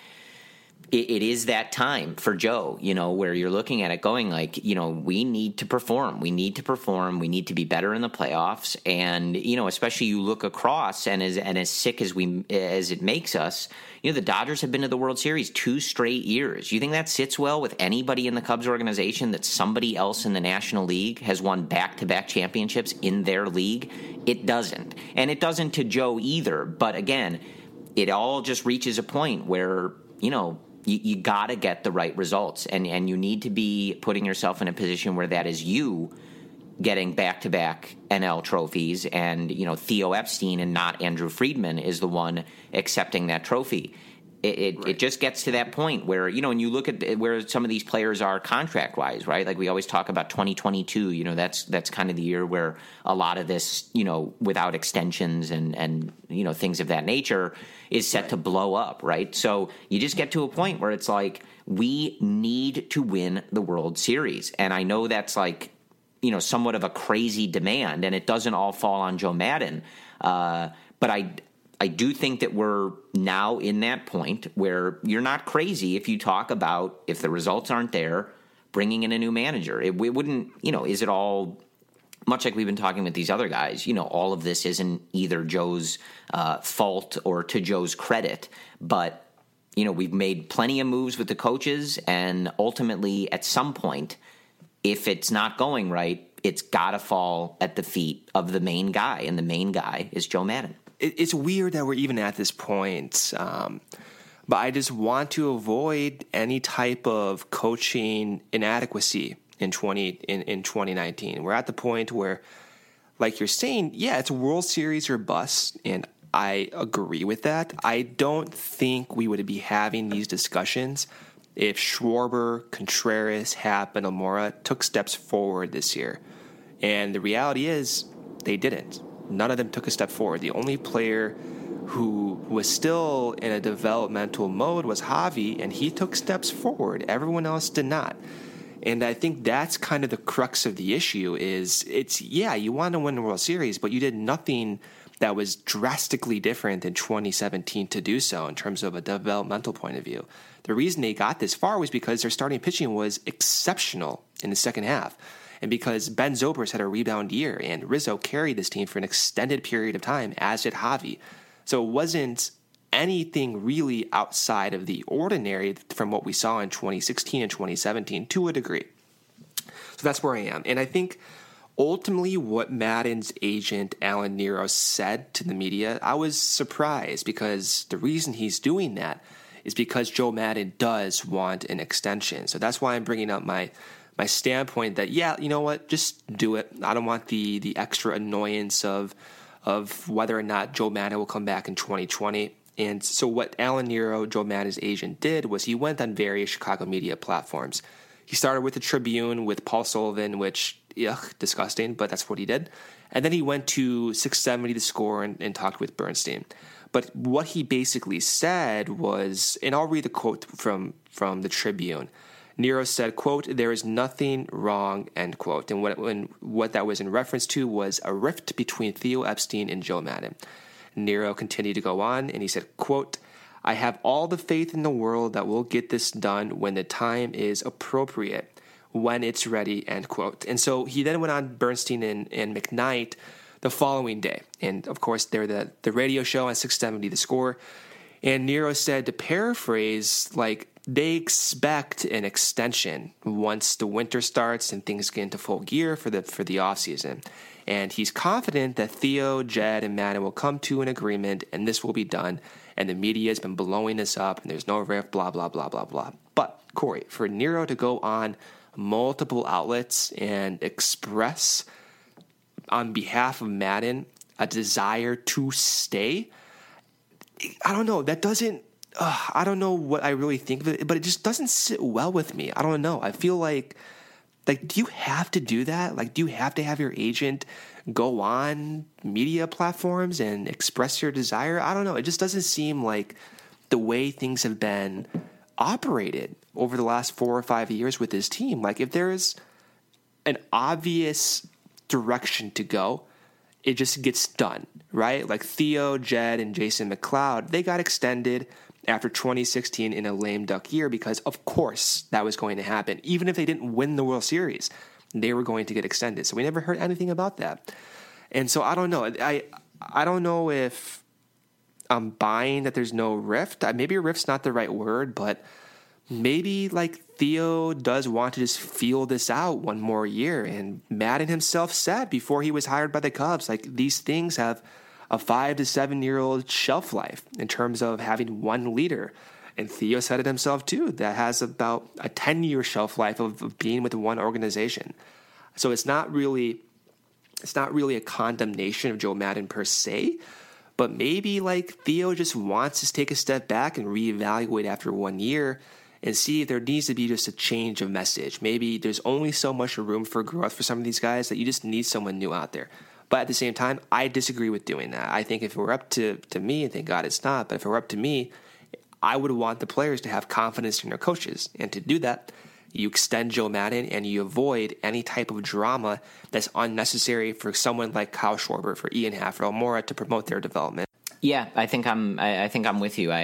it is that time for Joe, you know, where you're looking at it going like, you know, we need to perform. We need to perform. We need to be better in the playoffs. And, you know, especially you look across and as sick as it makes us, you know, the Dodgers have been to the World Series 2 straight years. You think that sits well with anybody in the Cubs organization that somebody else in the National League has won back-to-back championships in their league? It doesn't. And it doesn't to Joe either. But again, it all just reaches a point where, you know, you got to get the right results, and you need to be putting yourself in a position where that is you getting back-to-back NL trophies, and, you know, Theo Epstein and not Andrew Friedman is the one accepting that trophy. It just gets to that point where, you know, and you look at where some of these players are contract-wise, right? Like we always talk about 2022, you know, that's kind of the year where a lot of this, you know, without extensions and you know, things of that nature is set to blow up, right? So you just get to a point where it's like, we need to win the World Series. And I know that's like, you know, somewhat of a crazy demand, and it doesn't all fall on Joe Maddon. But I do think that we're now in that point where you're not crazy if you talk about, if the results aren't there, bringing in a new manager. It wouldn't, you know, is it all, much like we've been talking with these other guys, you know, all of this isn't either Joe's fault or to Joe's credit, but, you know, we've made plenty of moves with the coaches, and ultimately at some point, if it's not going right, it's got to fall at the feet of the main guy, and the main guy is Joe Maddon. It's weird that we're even at this point, but I just want to avoid any type of coaching inadequacy in 2019. We're at the point where, like you're saying, yeah, it's a World Series or bust, and I agree with that. I don't think we would be having these discussions if Schwarber, Contreras, Happ, and Almora took steps forward this year. And the reality is they didn't. None of them took a step forward. The only player who was still in a developmental mode was Javi, and he took steps forward. Everyone else did not. And I think that's kind of the crux of the issue is you want to win the World Series, but you did nothing that was drastically different in 2017 to do so in terms of a developmental point of view. The reason they got this far was because their starting pitching was exceptional in the second half. And because Ben Zobrist had a rebound year, and Rizzo carried this team for an extended period of time, as did Javi. So it wasn't anything really outside of the ordinary from what we saw in 2016 and 2017 to a degree. So that's where I am. And I think ultimately what Maddon's agent, Alan Nero, said to the media, I was surprised, because the reason he's doing that is because Joe Maddon does want an extension. So that's why I'm bringing up my standpoint that, yeah, you know what, just do it. I don't want the extra annoyance of whether or not Joe Maddon will come back in 2020. And so what Alan Nero, Joe Maddon's agent, did was he went on various Chicago media platforms. He started with the Tribune with Paul Sullivan, which, disgusting, but that's what he did. And then he went to 670 The Score and talked with Bernstein. But what he basically said was, and I'll read the quote from the Tribune. Nero said, quote, "There is nothing wrong," end quote. And what that was in reference to was a rift between Theo Epstein and Joe Maddon. Nero continued to go on, and he said, quote, "I have all the faith in the world that we'll get this done when the time is appropriate. when it's ready, end quote. And so he then went on Bernstein and McKnight the following day. And, of course, they're the radio show on 670 The Score. And Nero said, to paraphrase, like, they expect an extension once the winter starts and things get into full gear for the offseason. And he's confident that Theo, Jed, and Madden will come to an agreement, and this will be done. And the media has been blowing this up, and there's no rift, blah, blah, blah, blah, blah. But, Corey, for Nero to go on multiple outlets and express on behalf of Madden a desire to stay, I don't know. That doesn't, I don't know what I really think of it, but it just doesn't sit well with me. I don't know. I feel like, do you have to do that? Like, do you have to have your agent go on media platforms and express your desire? I don't know. It just doesn't seem like the way things have been operated over the last 4 or 5 years with his team. Like, if there's an obvious direction to go, it just gets done, right? Like Theo, Jed, and Jason McLeod, they got extended after 2016 in a lame duck year because, of course, that was going to happen. Even if they didn't win the World Series, they were going to get extended. So we never heard anything about that. And so I don't know. I don't know if I'm buying that there's no rift. Maybe a rift's not the right word, but maybe like Theo does want to just feel this out one more year. And Madden himself said before he was hired by the Cubs, like, these things have a 5 to 7 year old shelf life in terms of having one leader. And Theo said it himself too, that has about a 10-year shelf life of being with one organization. So it's not really a condemnation of Joe Madden per se, but maybe like Theo just wants to take a step back and reevaluate after 1 year and see if there needs to be just a change of message. Maybe there's only so much room for growth for some of these guys that you just need someone new out there. But at the same time, I disagree with doing that. I think if it were up to me, and thank God it's not, but if it were up to me, I would want the players to have confidence in their coaches. And to do that, you extend Joe Madden and you avoid any type of drama that's unnecessary for someone like Kyle Schwarber, for Ian Hafer, Almora to promote their development. Yeah, I think I'm with you.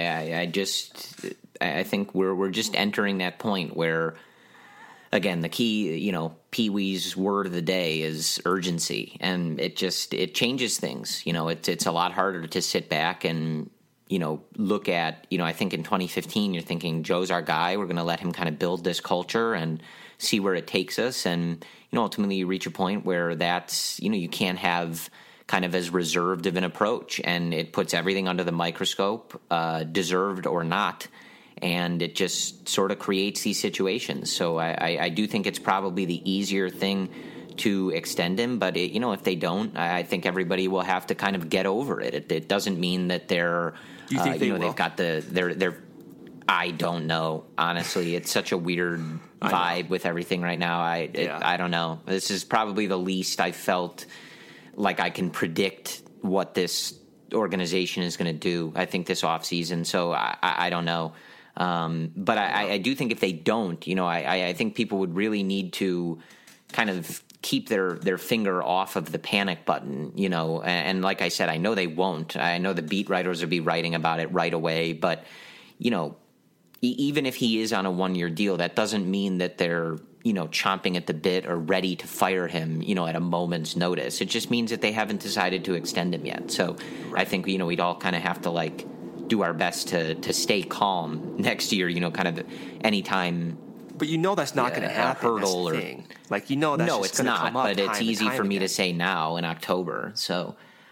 I think we're just entering that point where, again, the key, Pee Wee's word of the day is urgency, and it changes things. It's a lot harder to sit back and look at. I think in 2015 you're thinking Joe's our guy. We're going to let him kind of build this culture and see where it takes us, and ultimately you reach a point where that's you can't have kind of as reserved of an approach, and it puts everything under the microscope, deserved or not. And it just sort of creates these situations. So I do think it's probably the easier thing to extend him. But, if they don't, I think everybody will have to kind of get over it. It doesn't mean that they're, you think they've got they're I don't know. Honestly, it's such a weird vibe with everything right now. I don't know. This is probably the least I felt like I can predict what this organization is going to do, I think, this offseason. So I don't know. But I do think if they don't, I think people would really need to kind of keep their finger off of the panic button, and like I said, I know they won't. I know the beat writers will be writing about it right away, but, even if he is on a 1-year deal, that doesn't mean that they're, chomping at the bit or ready to fire him, at a moment's notice. It just means that they haven't decided to extend him yet. So right. I think, we'd all kind of have to do our best to stay calm next year, kind of anytime. But that's not going to happen. Hurdle that's the thing. That's no, it's not. But it's easy for me to say now in October. So,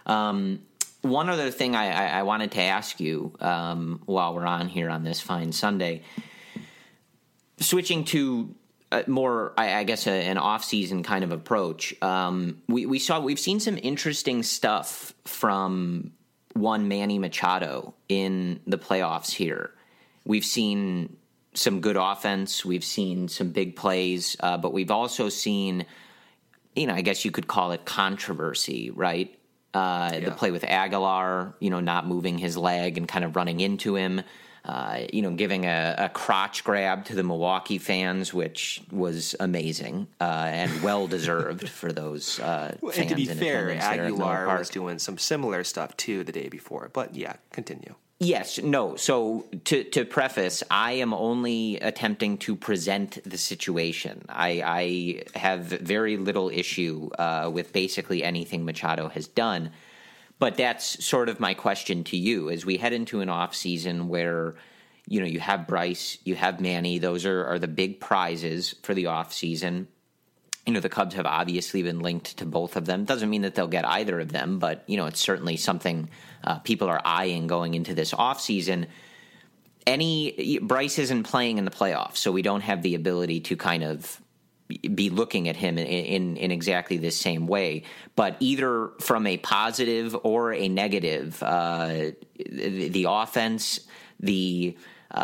one other thing I wanted to ask you while we're on here on this fine Sunday, switching to more, I guess, an off-season kind of approach. We've seen some interesting stuff from one Manny Machado in the playoffs here. We've seen some good offense. We've seen some big plays, but we've also seen, I guess you could call it controversy, right? The play with Aguilar, not moving his leg and kind of running into him, giving a crotch grab to the Milwaukee fans, which was amazing and well-deserved for those fans. And to be fair, Aguilar was doing some similar stuff, too, the day before. But, yeah, continue. Yes, no. So to preface, I am only attempting to present the situation. I have very little issue with basically anything Machado has done. But that's sort of my question to you as we head into an off season where, you have Bryce, you have Manny. Those are the big prizes for the off season. The Cubs have obviously been linked to both of them. Doesn't mean that they'll get either of them, but, it's certainly something people are eyeing going into this offseason. Bryce isn't playing in the playoffs, so we don't have the ability to kind of be looking at him in exactly this same way. But either from a positive or a negative, the offense, the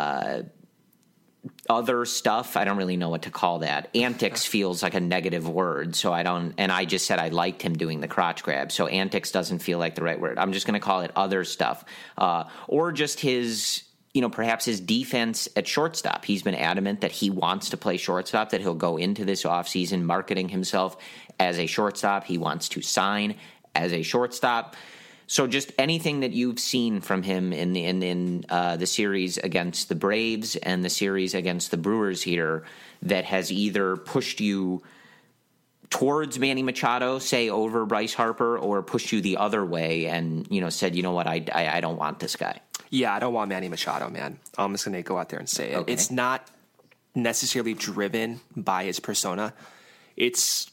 other stuff, I don't really know what to call that. Antics feels like a negative word, so I don't. And I just said I liked him doing the crotch grab, so antics doesn't feel like the right word. I'm just going to call it other stuff, or just his, perhaps his defense at shortstop. He's been adamant that he wants to play shortstop, that he'll go into this offseason marketing himself as a shortstop. He wants to sign as a shortstop. So just anything that you've seen from him in the series against the Braves and the series against the Brewers here that has either pushed you towards Manny Machado, say over Bryce Harper, or pushed you the other way and, said, you know what, I don't want this guy. Yeah, I don't want Manny Machado, man. I'm just going to go out there and say it. Okay. It's not necessarily driven by his persona. It's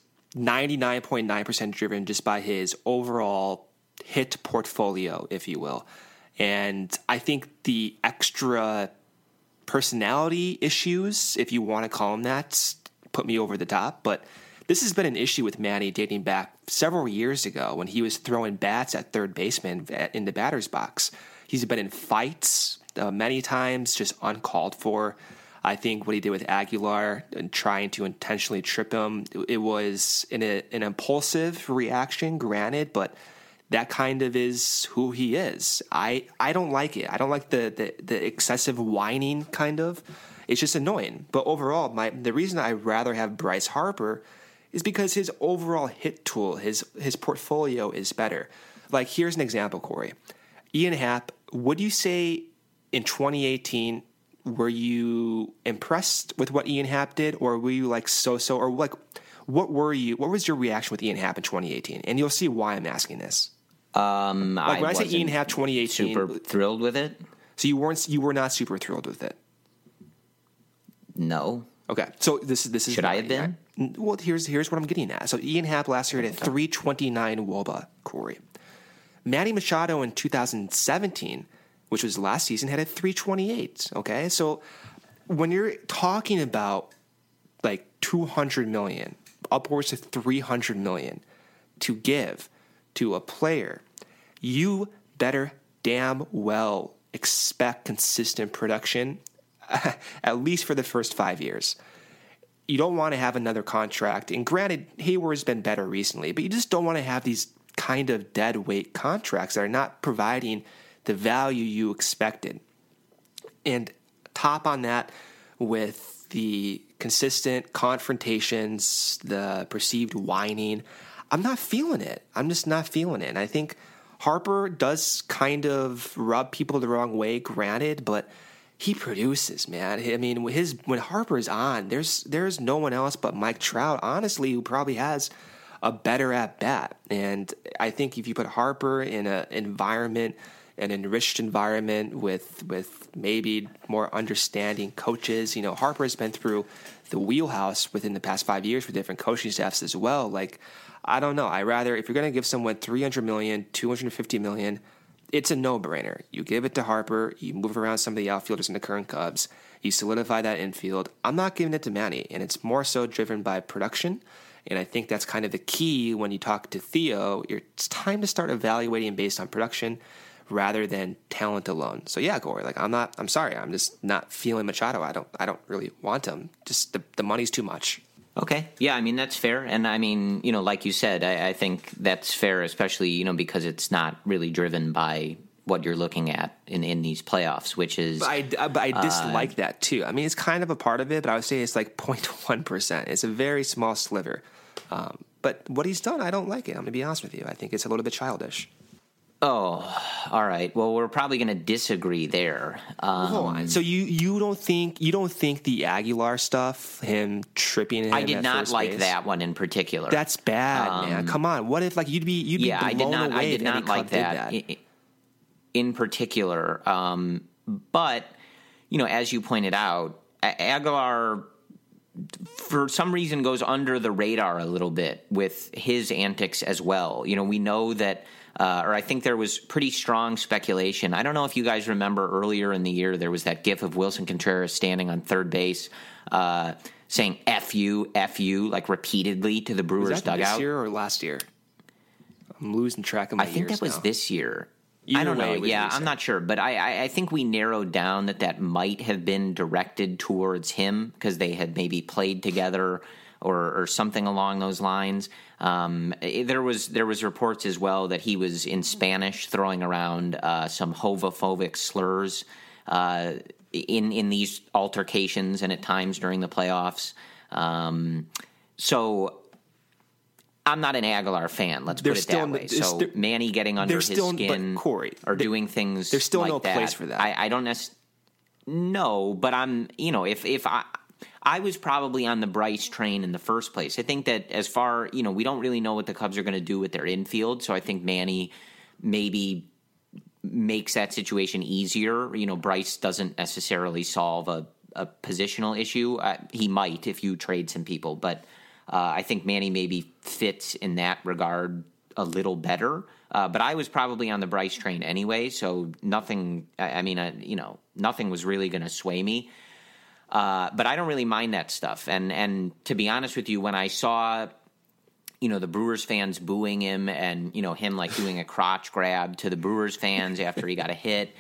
99.9% driven just by his overall hit portfolio, if you will. And I think the extra personality issues, if you want to call them that, put me over the top. But this has been an issue with Manny dating back several years ago when he was throwing bats at third baseman in the batter's box. He's been in fights many times, just uncalled for. I think what he did with Aguilar and trying to intentionally trip him, it was an impulsive reaction, granted, but that kind of is who he is. I don't like it. I don't like the excessive whining kind of. It's just annoying. But overall, the reason I'd rather have Bryce Harper is because his overall hit tool, his portfolio is better. Like, here's an example, Corey. Ian Happ, would you say in 2018, were you impressed with what Ian Happ did, or were you like so-so, or like what was your reaction with Ian Happ in 2018? And you'll see why I'm asking this. When I say Ian Happ 2018, super thrilled with it. So you were not super thrilled with it. No. Okay. So this is should I have been? Well, here's what I'm getting at. So Ian Happ last year had a 329 WOBA, Corey. Manny Machado in 2017, which was last season, had a 328. Okay. So when you're talking about like $200 million, upwards of $300 million to give to a player, you better damn well expect consistent production, at least for the first 5 years. You don't want to have another contract. And granted, Hayward's been better recently, but you just don't want to have these kind of dead weight contracts that are not providing the value you expected. And top on that with the consistent confrontations, the perceived whining, I'm not feeling it. I'm just not feeling it. And I think Harper does kind of rub people the wrong way, granted, but he produces, man. I mean, when Harper's on, there's no one else but Mike Trout, honestly, who probably has a better at bat. And I think if you put Harper in an enriched environment with maybe more understanding coaches, Harper has been through the wheelhouse within the past 5 years for different coaching staffs as well. Like, I don't know. I rather, if you're going to give someone $300 million, $250 million, it's a no-brainer. You give it to Harper, you move around some of the outfielders in the current Cubs, you solidify that infield. I'm not giving it to Manny, and it's more so driven by production, and I think that's kind of the key when you talk to Theo. It's time to start evaluating based on production rather than talent alone. So yeah, Corey, I'm sorry, I'm just not feeling Machado. I don't really want him. Just the money's too much. Okay. Yeah, I mean, that's fair. And I mean, like you said, I think that's fair, especially, because it's not really driven by what you're looking at in these playoffs, which is... But I dislike that, too. I mean, it's kind of a part of it, but I would say it's like 0.1%. It's a very small sliver. But what he's done, I don't like it. I'm going to be honest with you. I think it's a little bit childish. Oh, all right. Well, we're probably going to disagree there. Hold on. So you don't think the Aguilar stuff, him tripping in? I did not like that one in particular. That's bad, man. Come on. What if you'd be blown away? I did not like that in particular. But as you pointed out, Aguilar for some reason goes under the radar a little bit with his antics as well. We know that. Or I think there was pretty strong speculation. I don't know if you guys remember earlier in the year, there was that gif of Wilson Contreras standing on third base saying F you, like repeatedly to the Brewers was that dugout. This year or last year? I'm losing track of my years. I think that was this year. Either I don't know. Yeah, I'm not sure. But I think we narrowed down that might have been directed towards him because they had maybe played together or something along those lines. There was reports as well that he was in Spanish throwing around some homophobic slurs in these altercations and at times during the playoffs. So I'm not an Aguilar fan. Let's put it that way. So Manny getting under his skin or doing things there's still like no that, place for that. I don't necessarily. No, but I'm if I was probably on the Bryce train in the first place. I think that as far, we don't really know what the Cubs are going to do with their infield, so I think Manny maybe makes that situation easier. Bryce doesn't necessarily solve a positional issue. He might if you trade some people, but I think Manny maybe fits in that regard a little better. But I was probably on the Bryce train anyway, so nothing was really going to sway me. But I don't really mind that stuff. And to be honest with you, when I saw, the Brewers fans booing him and, him doing a crotch grab to the Brewers fans after he got a hit,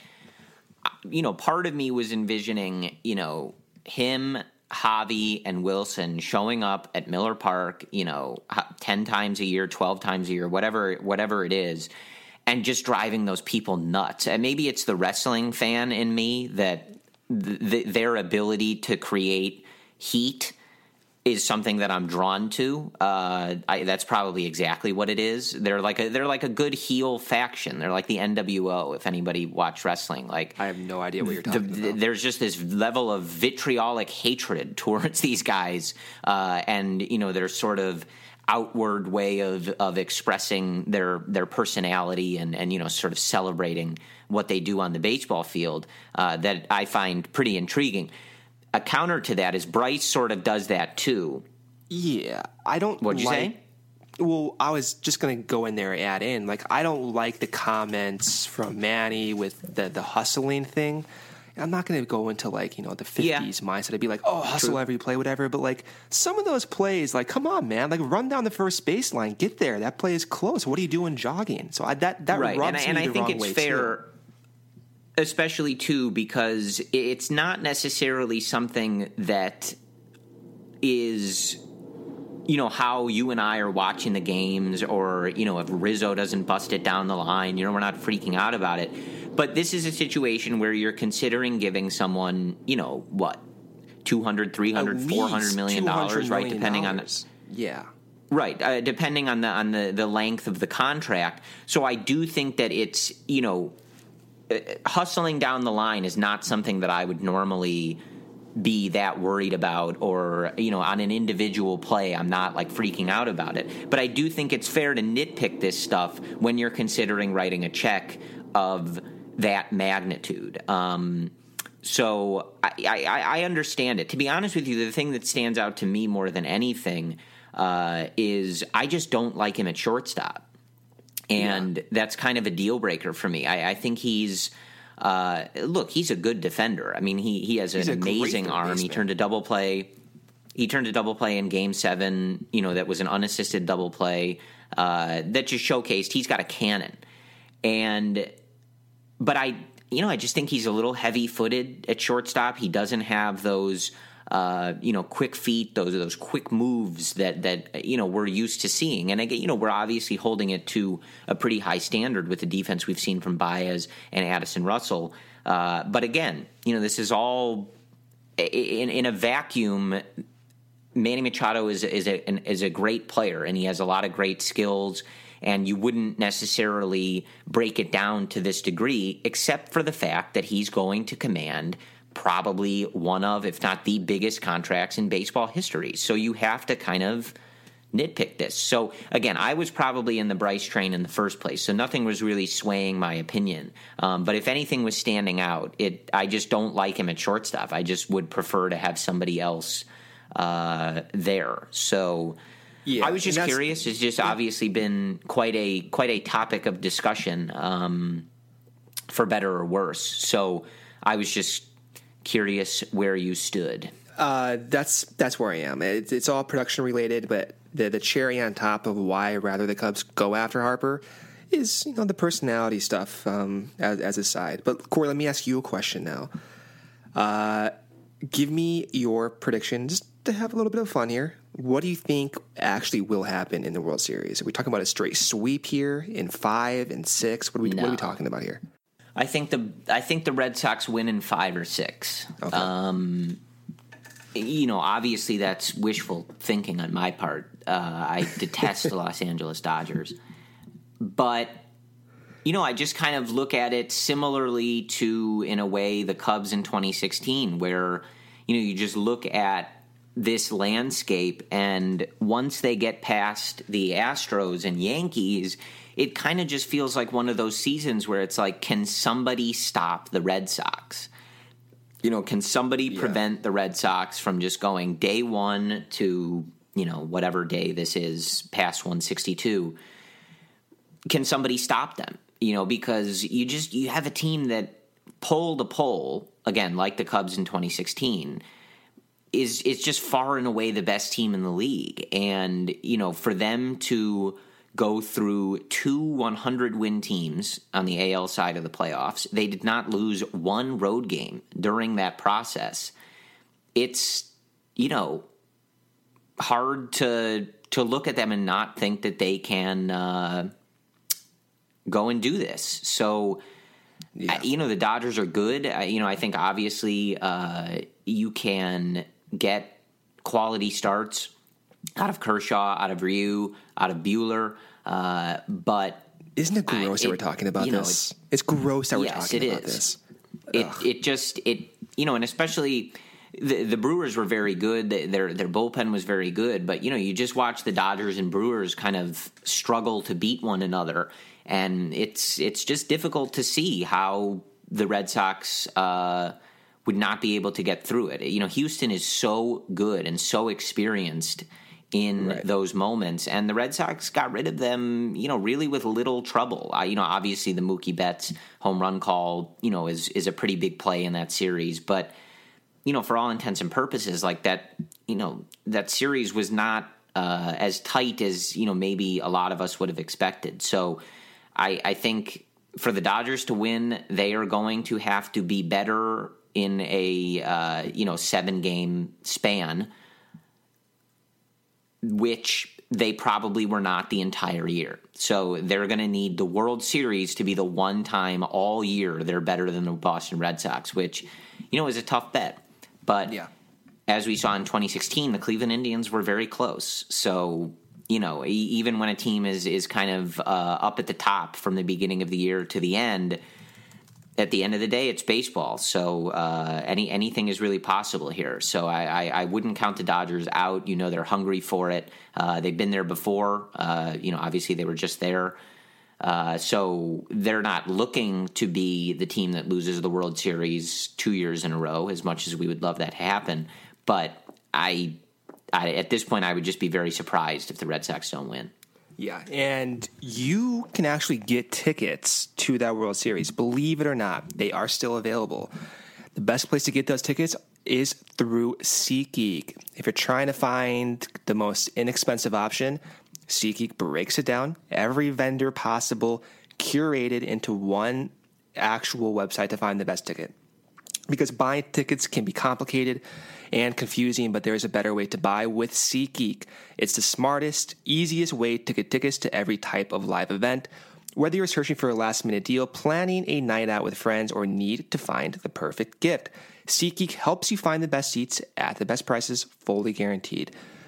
part of me was envisioning, him, Javi, and Wilson showing up at Miller Park, 10 times a year, 12 times a year, whatever it is, and just driving those people nuts. And maybe it's the wrestling fan in me that their ability to create heat is something that I'm drawn to. That's probably exactly what it is. They're like a good heel faction. They're like the NWO. If anybody watched wrestling, I have no idea what you're talking about. There's just this level of vitriolic hatred towards these guys, and their sort of outward way of expressing their personality and sort of celebrating what they do on the baseball field that I find pretty intriguing. A counter to that is Bryce sort of does that too. Yeah, I don't. What'd you say? Well, I was just going to go in there and add in. I don't like the comments from Manny with the hustling thing. I'm not going to go into the 50s mindset. I'd be like, oh, hustle every play, whatever. But some of those plays, come on, man, run down the first baseline, get there. That play is close. What are you doing jogging? So that right. rubs and me I the think wrong it's way fair. Too. Especially, too, because it's not necessarily something that is, how you and I are watching the games or, if Rizzo doesn't bust it down the line, we're not freaking out about it. But this is a situation where you're considering giving someone, what, $200, $300, $400 million, right? Depending on the, yeah. Right, depending on the length of the contract. So I do think that it's, hustling down the line is not something that I would normally be that worried about or, on an individual play, I'm not freaking out about it. But I do think it's fair to nitpick this stuff when you're considering writing a check of that magnitude. So I understand it. To be honest with you, the thing that stands out to me more than anything is I just don't like him at shortstop. And that's kind of a deal breaker for me. I think he's he's a good defender. I mean, he has an amazing arm. He turned a double play. He turned a double play in Game 7. That was an unassisted double play that just showcased he's got a cannon. But I just think he's a little heavy-footed at shortstop. He doesn't have those. Quick feet, those quick moves that we're used to seeing. And again, we're obviously holding it to a pretty high standard with the defense we've seen from Baez and Addison Russell. But again, this is all in a vacuum. Manny Machado is a great player, and he has a lot of great skills. and you wouldn't necessarily break it down to this degree, except for the fact that he's going to command probably one of, if not the biggest contracts in baseball history. So you have to kind of nitpick this. So again, I was probably in the Bryce train in the first place, so nothing was really swaying my opinion. But if anything was standing out, I just don't like him at shortstop. I just would prefer to have somebody else there. So yeah, I was just curious. It's just obviously been quite a topic of discussion, for better or worse. So I was just curious where you stood. That's where I am. It's all production related, but the cherry on top of why rather the Cubs go after Harper is the personality stuff as a side. But Corey, let me ask you a question now. Give me your prediction, just to have a little bit of fun here. What do you think actually will happen in the World Series? Are we talking about a straight sweep here in 5 and 6? What are we talking about here? I think the Red Sox win in 5 or 6. Okay. Obviously that's wishful thinking on my part. I detest the Los Angeles Dodgers. But, I just kind of look at it similarly to, in a way, the Cubs in 2016, where, you just look at this landscape, and once they get past the Astros and Yankees, it kind of just feels like one of those seasons where it's like, can somebody stop the Red Sox? Can somebody prevent the Red Sox from just going day one to, whatever day this is, past 162? Can somebody stop them? Because you have a team that poll to poll, again, like the Cubs in 2016, is just far and away the best team in the league. And, for them to go through 2 100-win teams on the AL side of the playoffs, they did not lose one road game during that process. It's, hard to look at them and not think that they can go and do this. So, the Dodgers are good. I think obviously you can get quality starts out of Kershaw, out of Ryu, out of Buehler, but isn't it gross that we're talking about this? It's gross that we're talking about this. And especially the Brewers were very good. Their bullpen was very good, but you just watch the Dodgers and Brewers kind of struggle to beat one another, and it's just difficult to see how the Red Sox would not be able to get through it. Houston is so good and so experienced in those moments, and the Red Sox got rid of them, really with little trouble. Obviously the Mookie Betts home run call, is a pretty big play in that series, but for all intents and purposes, like that, that series was not as tight as maybe a lot of us would have expected. So I think for the Dodgers to win, they are going to have to be better in a 7-game span, which they probably were not the entire year. So they're going to need the World Series to be the one time all year they're better than the Boston Red Sox, which, is a tough bet. But as we saw in 2016, the Cleveland Indians were very close. So, even when a team is kind of up at the top from the beginning of the year to the end, at the end of the day, it's baseball. So anything is really possible here. So I wouldn't count the Dodgers out. They're hungry for it. They've been there before. Obviously they were just there. So they're not looking to be the team that loses the World Series 2 years in a row, as much as we would love that to happen. But I at this point, I would just be very surprised if the Red Sox don't win. Yeah, and you can actually get tickets to that World Series. Believe it or not, they are still available. The best place to get those tickets is through SeatGeek. If you're trying to find the most inexpensive option, SeatGeek breaks it down, every vendor possible, curated into one actual website to find the best ticket. Because buying tickets can be complicated and confusing, but there is a better way to buy with SeatGeek. It's the smartest, easiest way to get tickets to every type of live event. Whether you're searching for a last-minute deal, planning a night out with friends, or need to find the perfect gift, SeatGeek helps you find the best seats at the best prices, fully guaranteed.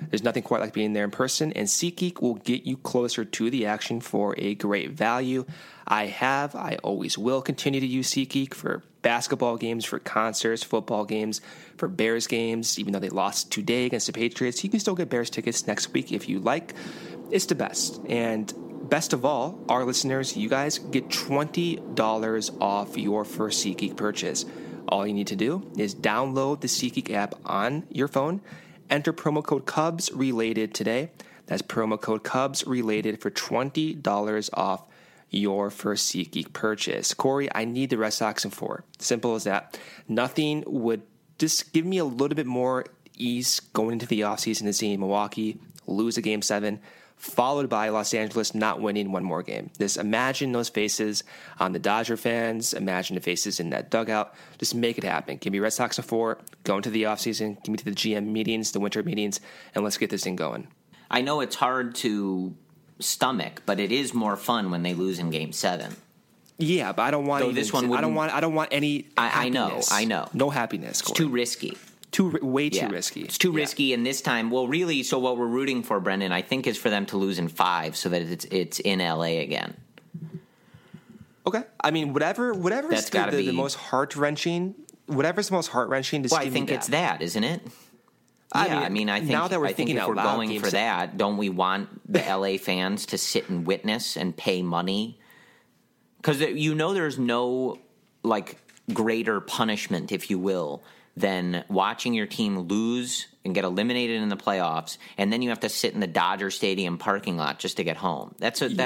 There's nothing quite like being there in person, and SeatGeek will get you closer to the action for a great value. I always will continue to use SeatGeek for basketball games, for concerts, football games, for Bears games. Even though they lost today against the Patriots, you can still get Bears tickets next week if you like. It's the best. And best of all, our listeners, you guys get $20 off your first SeatGeek purchase. All you need to do is download the SeatGeek app on your phone, enter promo code CubsRelated today. That's promo code CubsRelated for $20 off your first SeatGeek purchase. Corey, I need the Red Sox in 4. Simple as that. Nothing would just give me a little bit more ease going into the offseason and seeing Milwaukee lose a Game 7, followed by Los Angeles not winning one more game. Just imagine those faces on the Dodger fans. Imagine the faces in that dugout. Just make it happen. Give me Red Sox in 4. Go into the offseason. Give me to the GM meetings, the winter meetings, and let's get this thing going. I know it's hard to stomach, but it is more fun when they lose in Game 7. Yeah, but I don't want this one. I don't want any. Happiness. I know. No happiness. Corey. It's too risky. Way too risky. It's too risky, and this time, well, really, so what we're rooting for, Brendan, I think is for them to lose in 5 so that it's in LA again. Okay. I mean, whatever's the most heart-wrenching, whatever's the most heart-wrenching, I think it's that, isn't it? I think now that I think if we're going for that, don't we want the LA fans to sit and witness and pay money? Because there's no greater punishment, if you will, than watching your team lose and get eliminated in the playoffs, and then you have to sit in the Dodger Stadium parking lot just to get home. That's rough.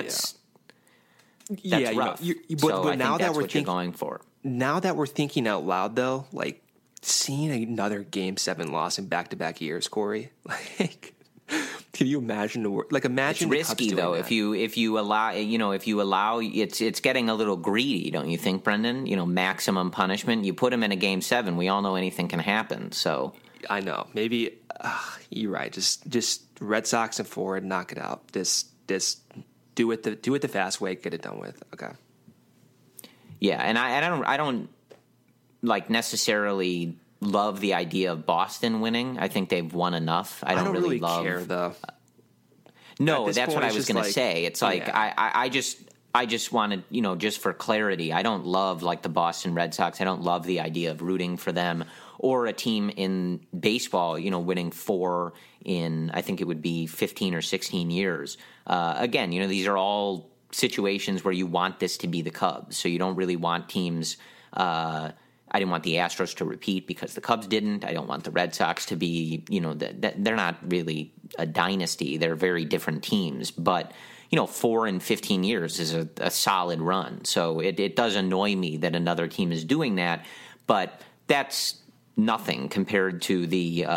But now that what you're going for. Now that we're thinking out loud, though, seeing another Game 7 loss in back-to-back years, Corey, can you imagine the word? Imagine it's risky though. That. If you allow, it's getting a little greedy, don't you think, Brendan? Maximum punishment. You put him in a Game 7. We all know anything can happen. So I know. Maybe you're right. Just Red Sox and 4, knock it out. Just do it the fast way. Get it done with. Okay. Yeah, and I don't necessarily love the idea of Boston winning. I think they've won enough. I don't really care though. No, that's what I was going to say. It's I just wanted, just for clarity, I don't love the Boston Red Sox. I don't love the idea of rooting for them or a team in baseball, winning 4 in, I think it would be 15 or 16 years. Again, these are all situations where you want this to be the Cubs. So you don't really want teams, I didn't want the Astros to repeat because the Cubs didn't. I don't want the Red Sox to be, they're not really a dynasty. They're very different teams. But, 4 in 15 years is a solid run. So it does annoy me that another team is doing that. But that's nothing compared to the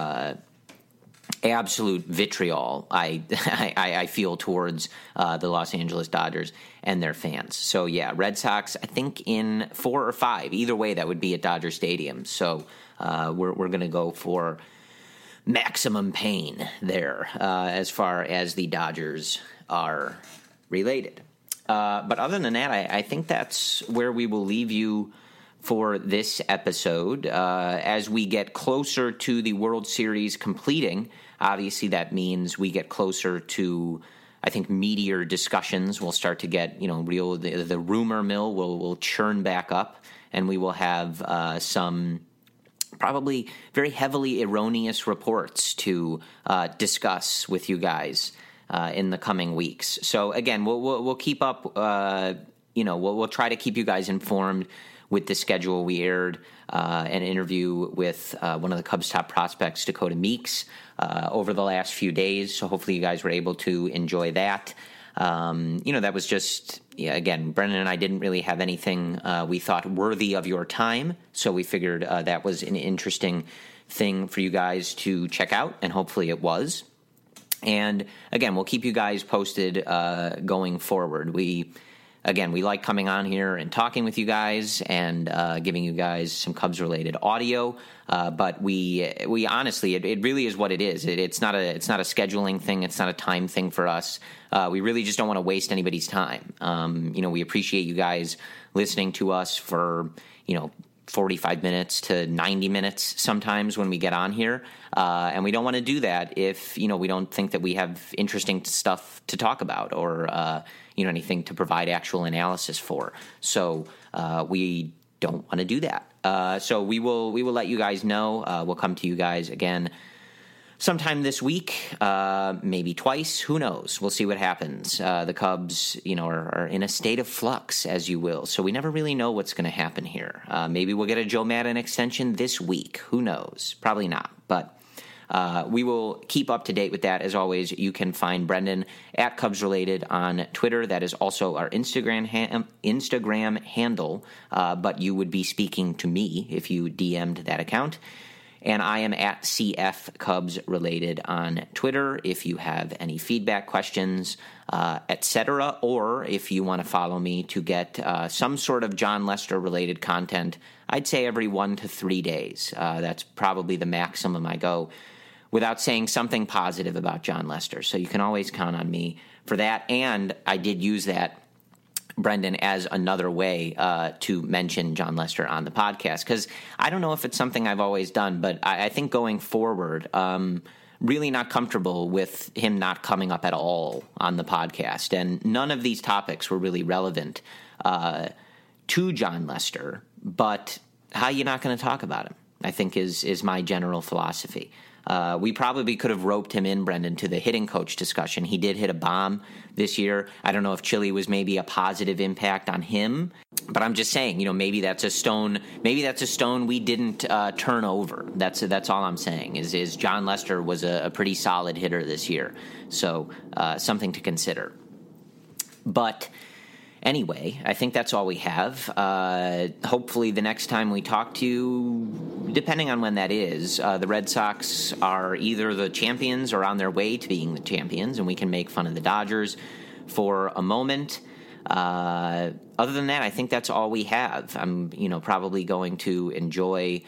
absolute vitriol I feel towards the Los Angeles Dodgers and their fans. So, yeah, Red Sox, I think in 4 or 5. Either way, that would be at Dodger Stadium. So we're going to go for maximum pain there as far as the Dodgers are related. But other than that, I think that's where we will leave you for this episode. As we get closer to the World Series completing, obviously that means we get closer to, I think, meatier discussions. We'll start to get, the rumor mill will churn back up, and we will have some probably very heavily erroneous reports to discuss with you guys in the coming weeks. So again, we'll keep up. We'll try to keep you guys informed with the schedule. We aired an interview with one of the Cubs' top prospects, Dakota Meeks, over the last few days. So hopefully you guys were able to enjoy that. That was just, again, Brendan and I didn't really have anything we thought worthy of your time. So we figured that was an interesting thing for you guys to check out, and hopefully it was. And again, we'll keep you guys posted going forward. We like coming on here and talking with you guys and giving you guys some Cubs-related audio. But we honestly, it really is what it is. It's not a scheduling thing. It's not a time thing for us. We really just don't want to waste anybody's time. We appreciate you guys listening to us for, 45 minutes to 90 minutes sometimes when we get on here. And we don't want to do that if, we don't think that we have interesting stuff to talk about or, anything to provide actual analysis for. So we don't want to do that. So we will let you guys know. We'll come to you guys again sometime this week, maybe twice. Who knows? We'll see what happens. The Cubs, are in a state of flux, as you will. So we never really know what's going to happen here. Maybe we'll get a Joe Maddon extension this week. Who knows? Probably not. But we will keep up to date with that. As always, you can find Brendan at Cubs Related on Twitter. That is also our Instagram handle. But you would be speaking to me if you DM'd that account. And I am at CF Cubs Related on Twitter if you have any feedback, questions, etc., or if you want to follow me to get some sort of Jon Lester related content. I'd say every 1 to 3 days. That's probably the maximum I go without saying something positive about Jon Lester. So you can always count on me for that. And I did use that, Brendan, as another way to mention Jon Lester on the podcast, because I don't know if it's something I've always done, but I think going forward, really not comfortable with him not coming up at all on the podcast. And none of these topics were really relevant to Jon Lester, but how you not going to talk about him, I think, is my general philosophy. We probably could have roped him in, Brendan, to the hitting coach discussion. He did hit a bomb this year. I don't know if Chile was maybe a positive impact on him, but I'm just saying, maybe that's a stone. Maybe that's a stone we didn't turn over. That's all I'm saying. Is Jon Lester was a pretty solid hitter this year, so something to consider. But anyway, I think that's all we have. Hopefully the next time we talk to you, depending on when that is, the Red Sox are either the champions or on their way to being the champions, and we can make fun of the Dodgers for a moment. Other than that, I think that's all we have. I'm, probably going to enjoy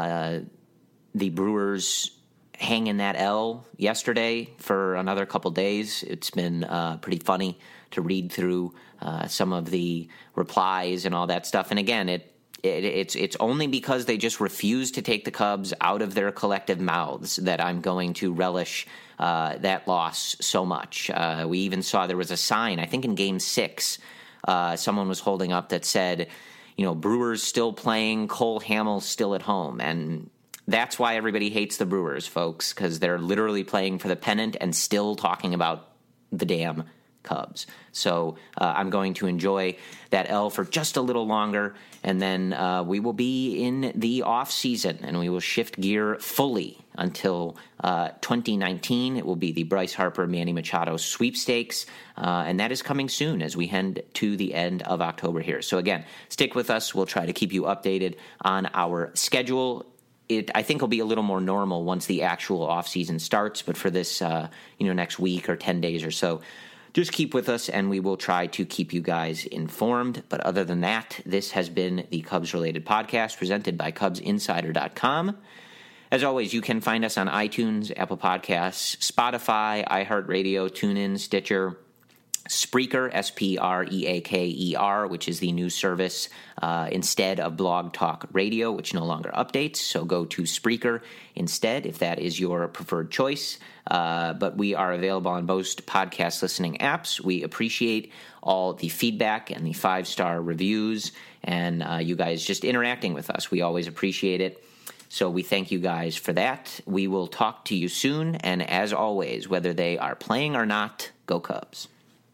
the Brewers hanging that L yesterday for another couple days. It's been pretty funny to read through some of the replies and all that stuff. And again, it's only because they just refuse to take the Cubs out of their collective mouths that I'm going to relish that loss so much. We even saw there was a sign, I think in Game 6, someone was holding up that said, Brewers still playing, Cole Hamels still at home. And that's why everybody hates the Brewers, folks, because they're literally playing for the pennant and still talking about the damn Cubs. So I'm going to enjoy that L for just a little longer, and then we will be in the off season, and we will shift gear fully until 2019. It will be the Bryce Harper Manny Machado sweepstakes, and that is coming soon as we head to the end of October here. So again, stick with us. We'll try to keep you updated on our schedule. I think will be a little more normal once the actual off season starts, but for this next week or 10 days or so, just keep with us, and we will try to keep you guys informed. But other than that, this has been the Cubs-related podcast presented by CubsInsider.com. As always, you can find us on iTunes, Apple Podcasts, Spotify, iHeartRadio, TuneIn, Stitcher, Spreaker, Spreaker, which is the new service instead of Blog Talk Radio, which no longer updates. So go to Spreaker instead if that is your preferred choice. But we are available on most podcast listening apps. We appreciate all the feedback and the 5-star reviews and you guys just interacting with us. We always appreciate it. So we thank you guys for that. We will talk to you soon. And as always, whether they are playing or not, go Cubs.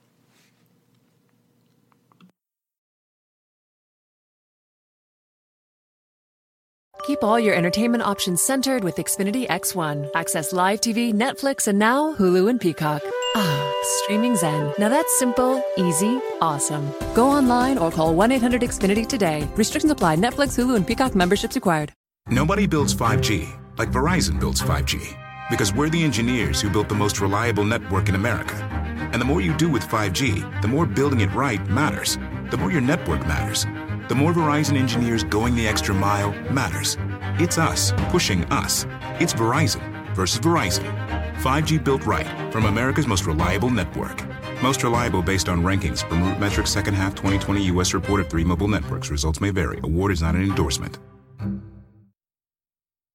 Keep all your entertainment options centered with Xfinity X1. Access live TV, Netflix, and now Hulu and Peacock. Ah, streaming zen. Now that's simple, easy, awesome. Go online or call 1-800-XFINITY today. Restrictions apply. Netflix, Hulu, and Peacock memberships required. Nobody builds 5G like Verizon builds 5G. Because we're the engineers who built the most reliable network in America. And the more you do with 5G, the more building it right matters. The more your network matters. The more Verizon engineers going the extra mile matters. It's us pushing us. It's Verizon versus Verizon. 5G built right from America's most reliable network. Most reliable based on rankings from RootMetrics second half 2020 U.S. report of 3 mobile networks. Results may vary. Award is not an endorsement.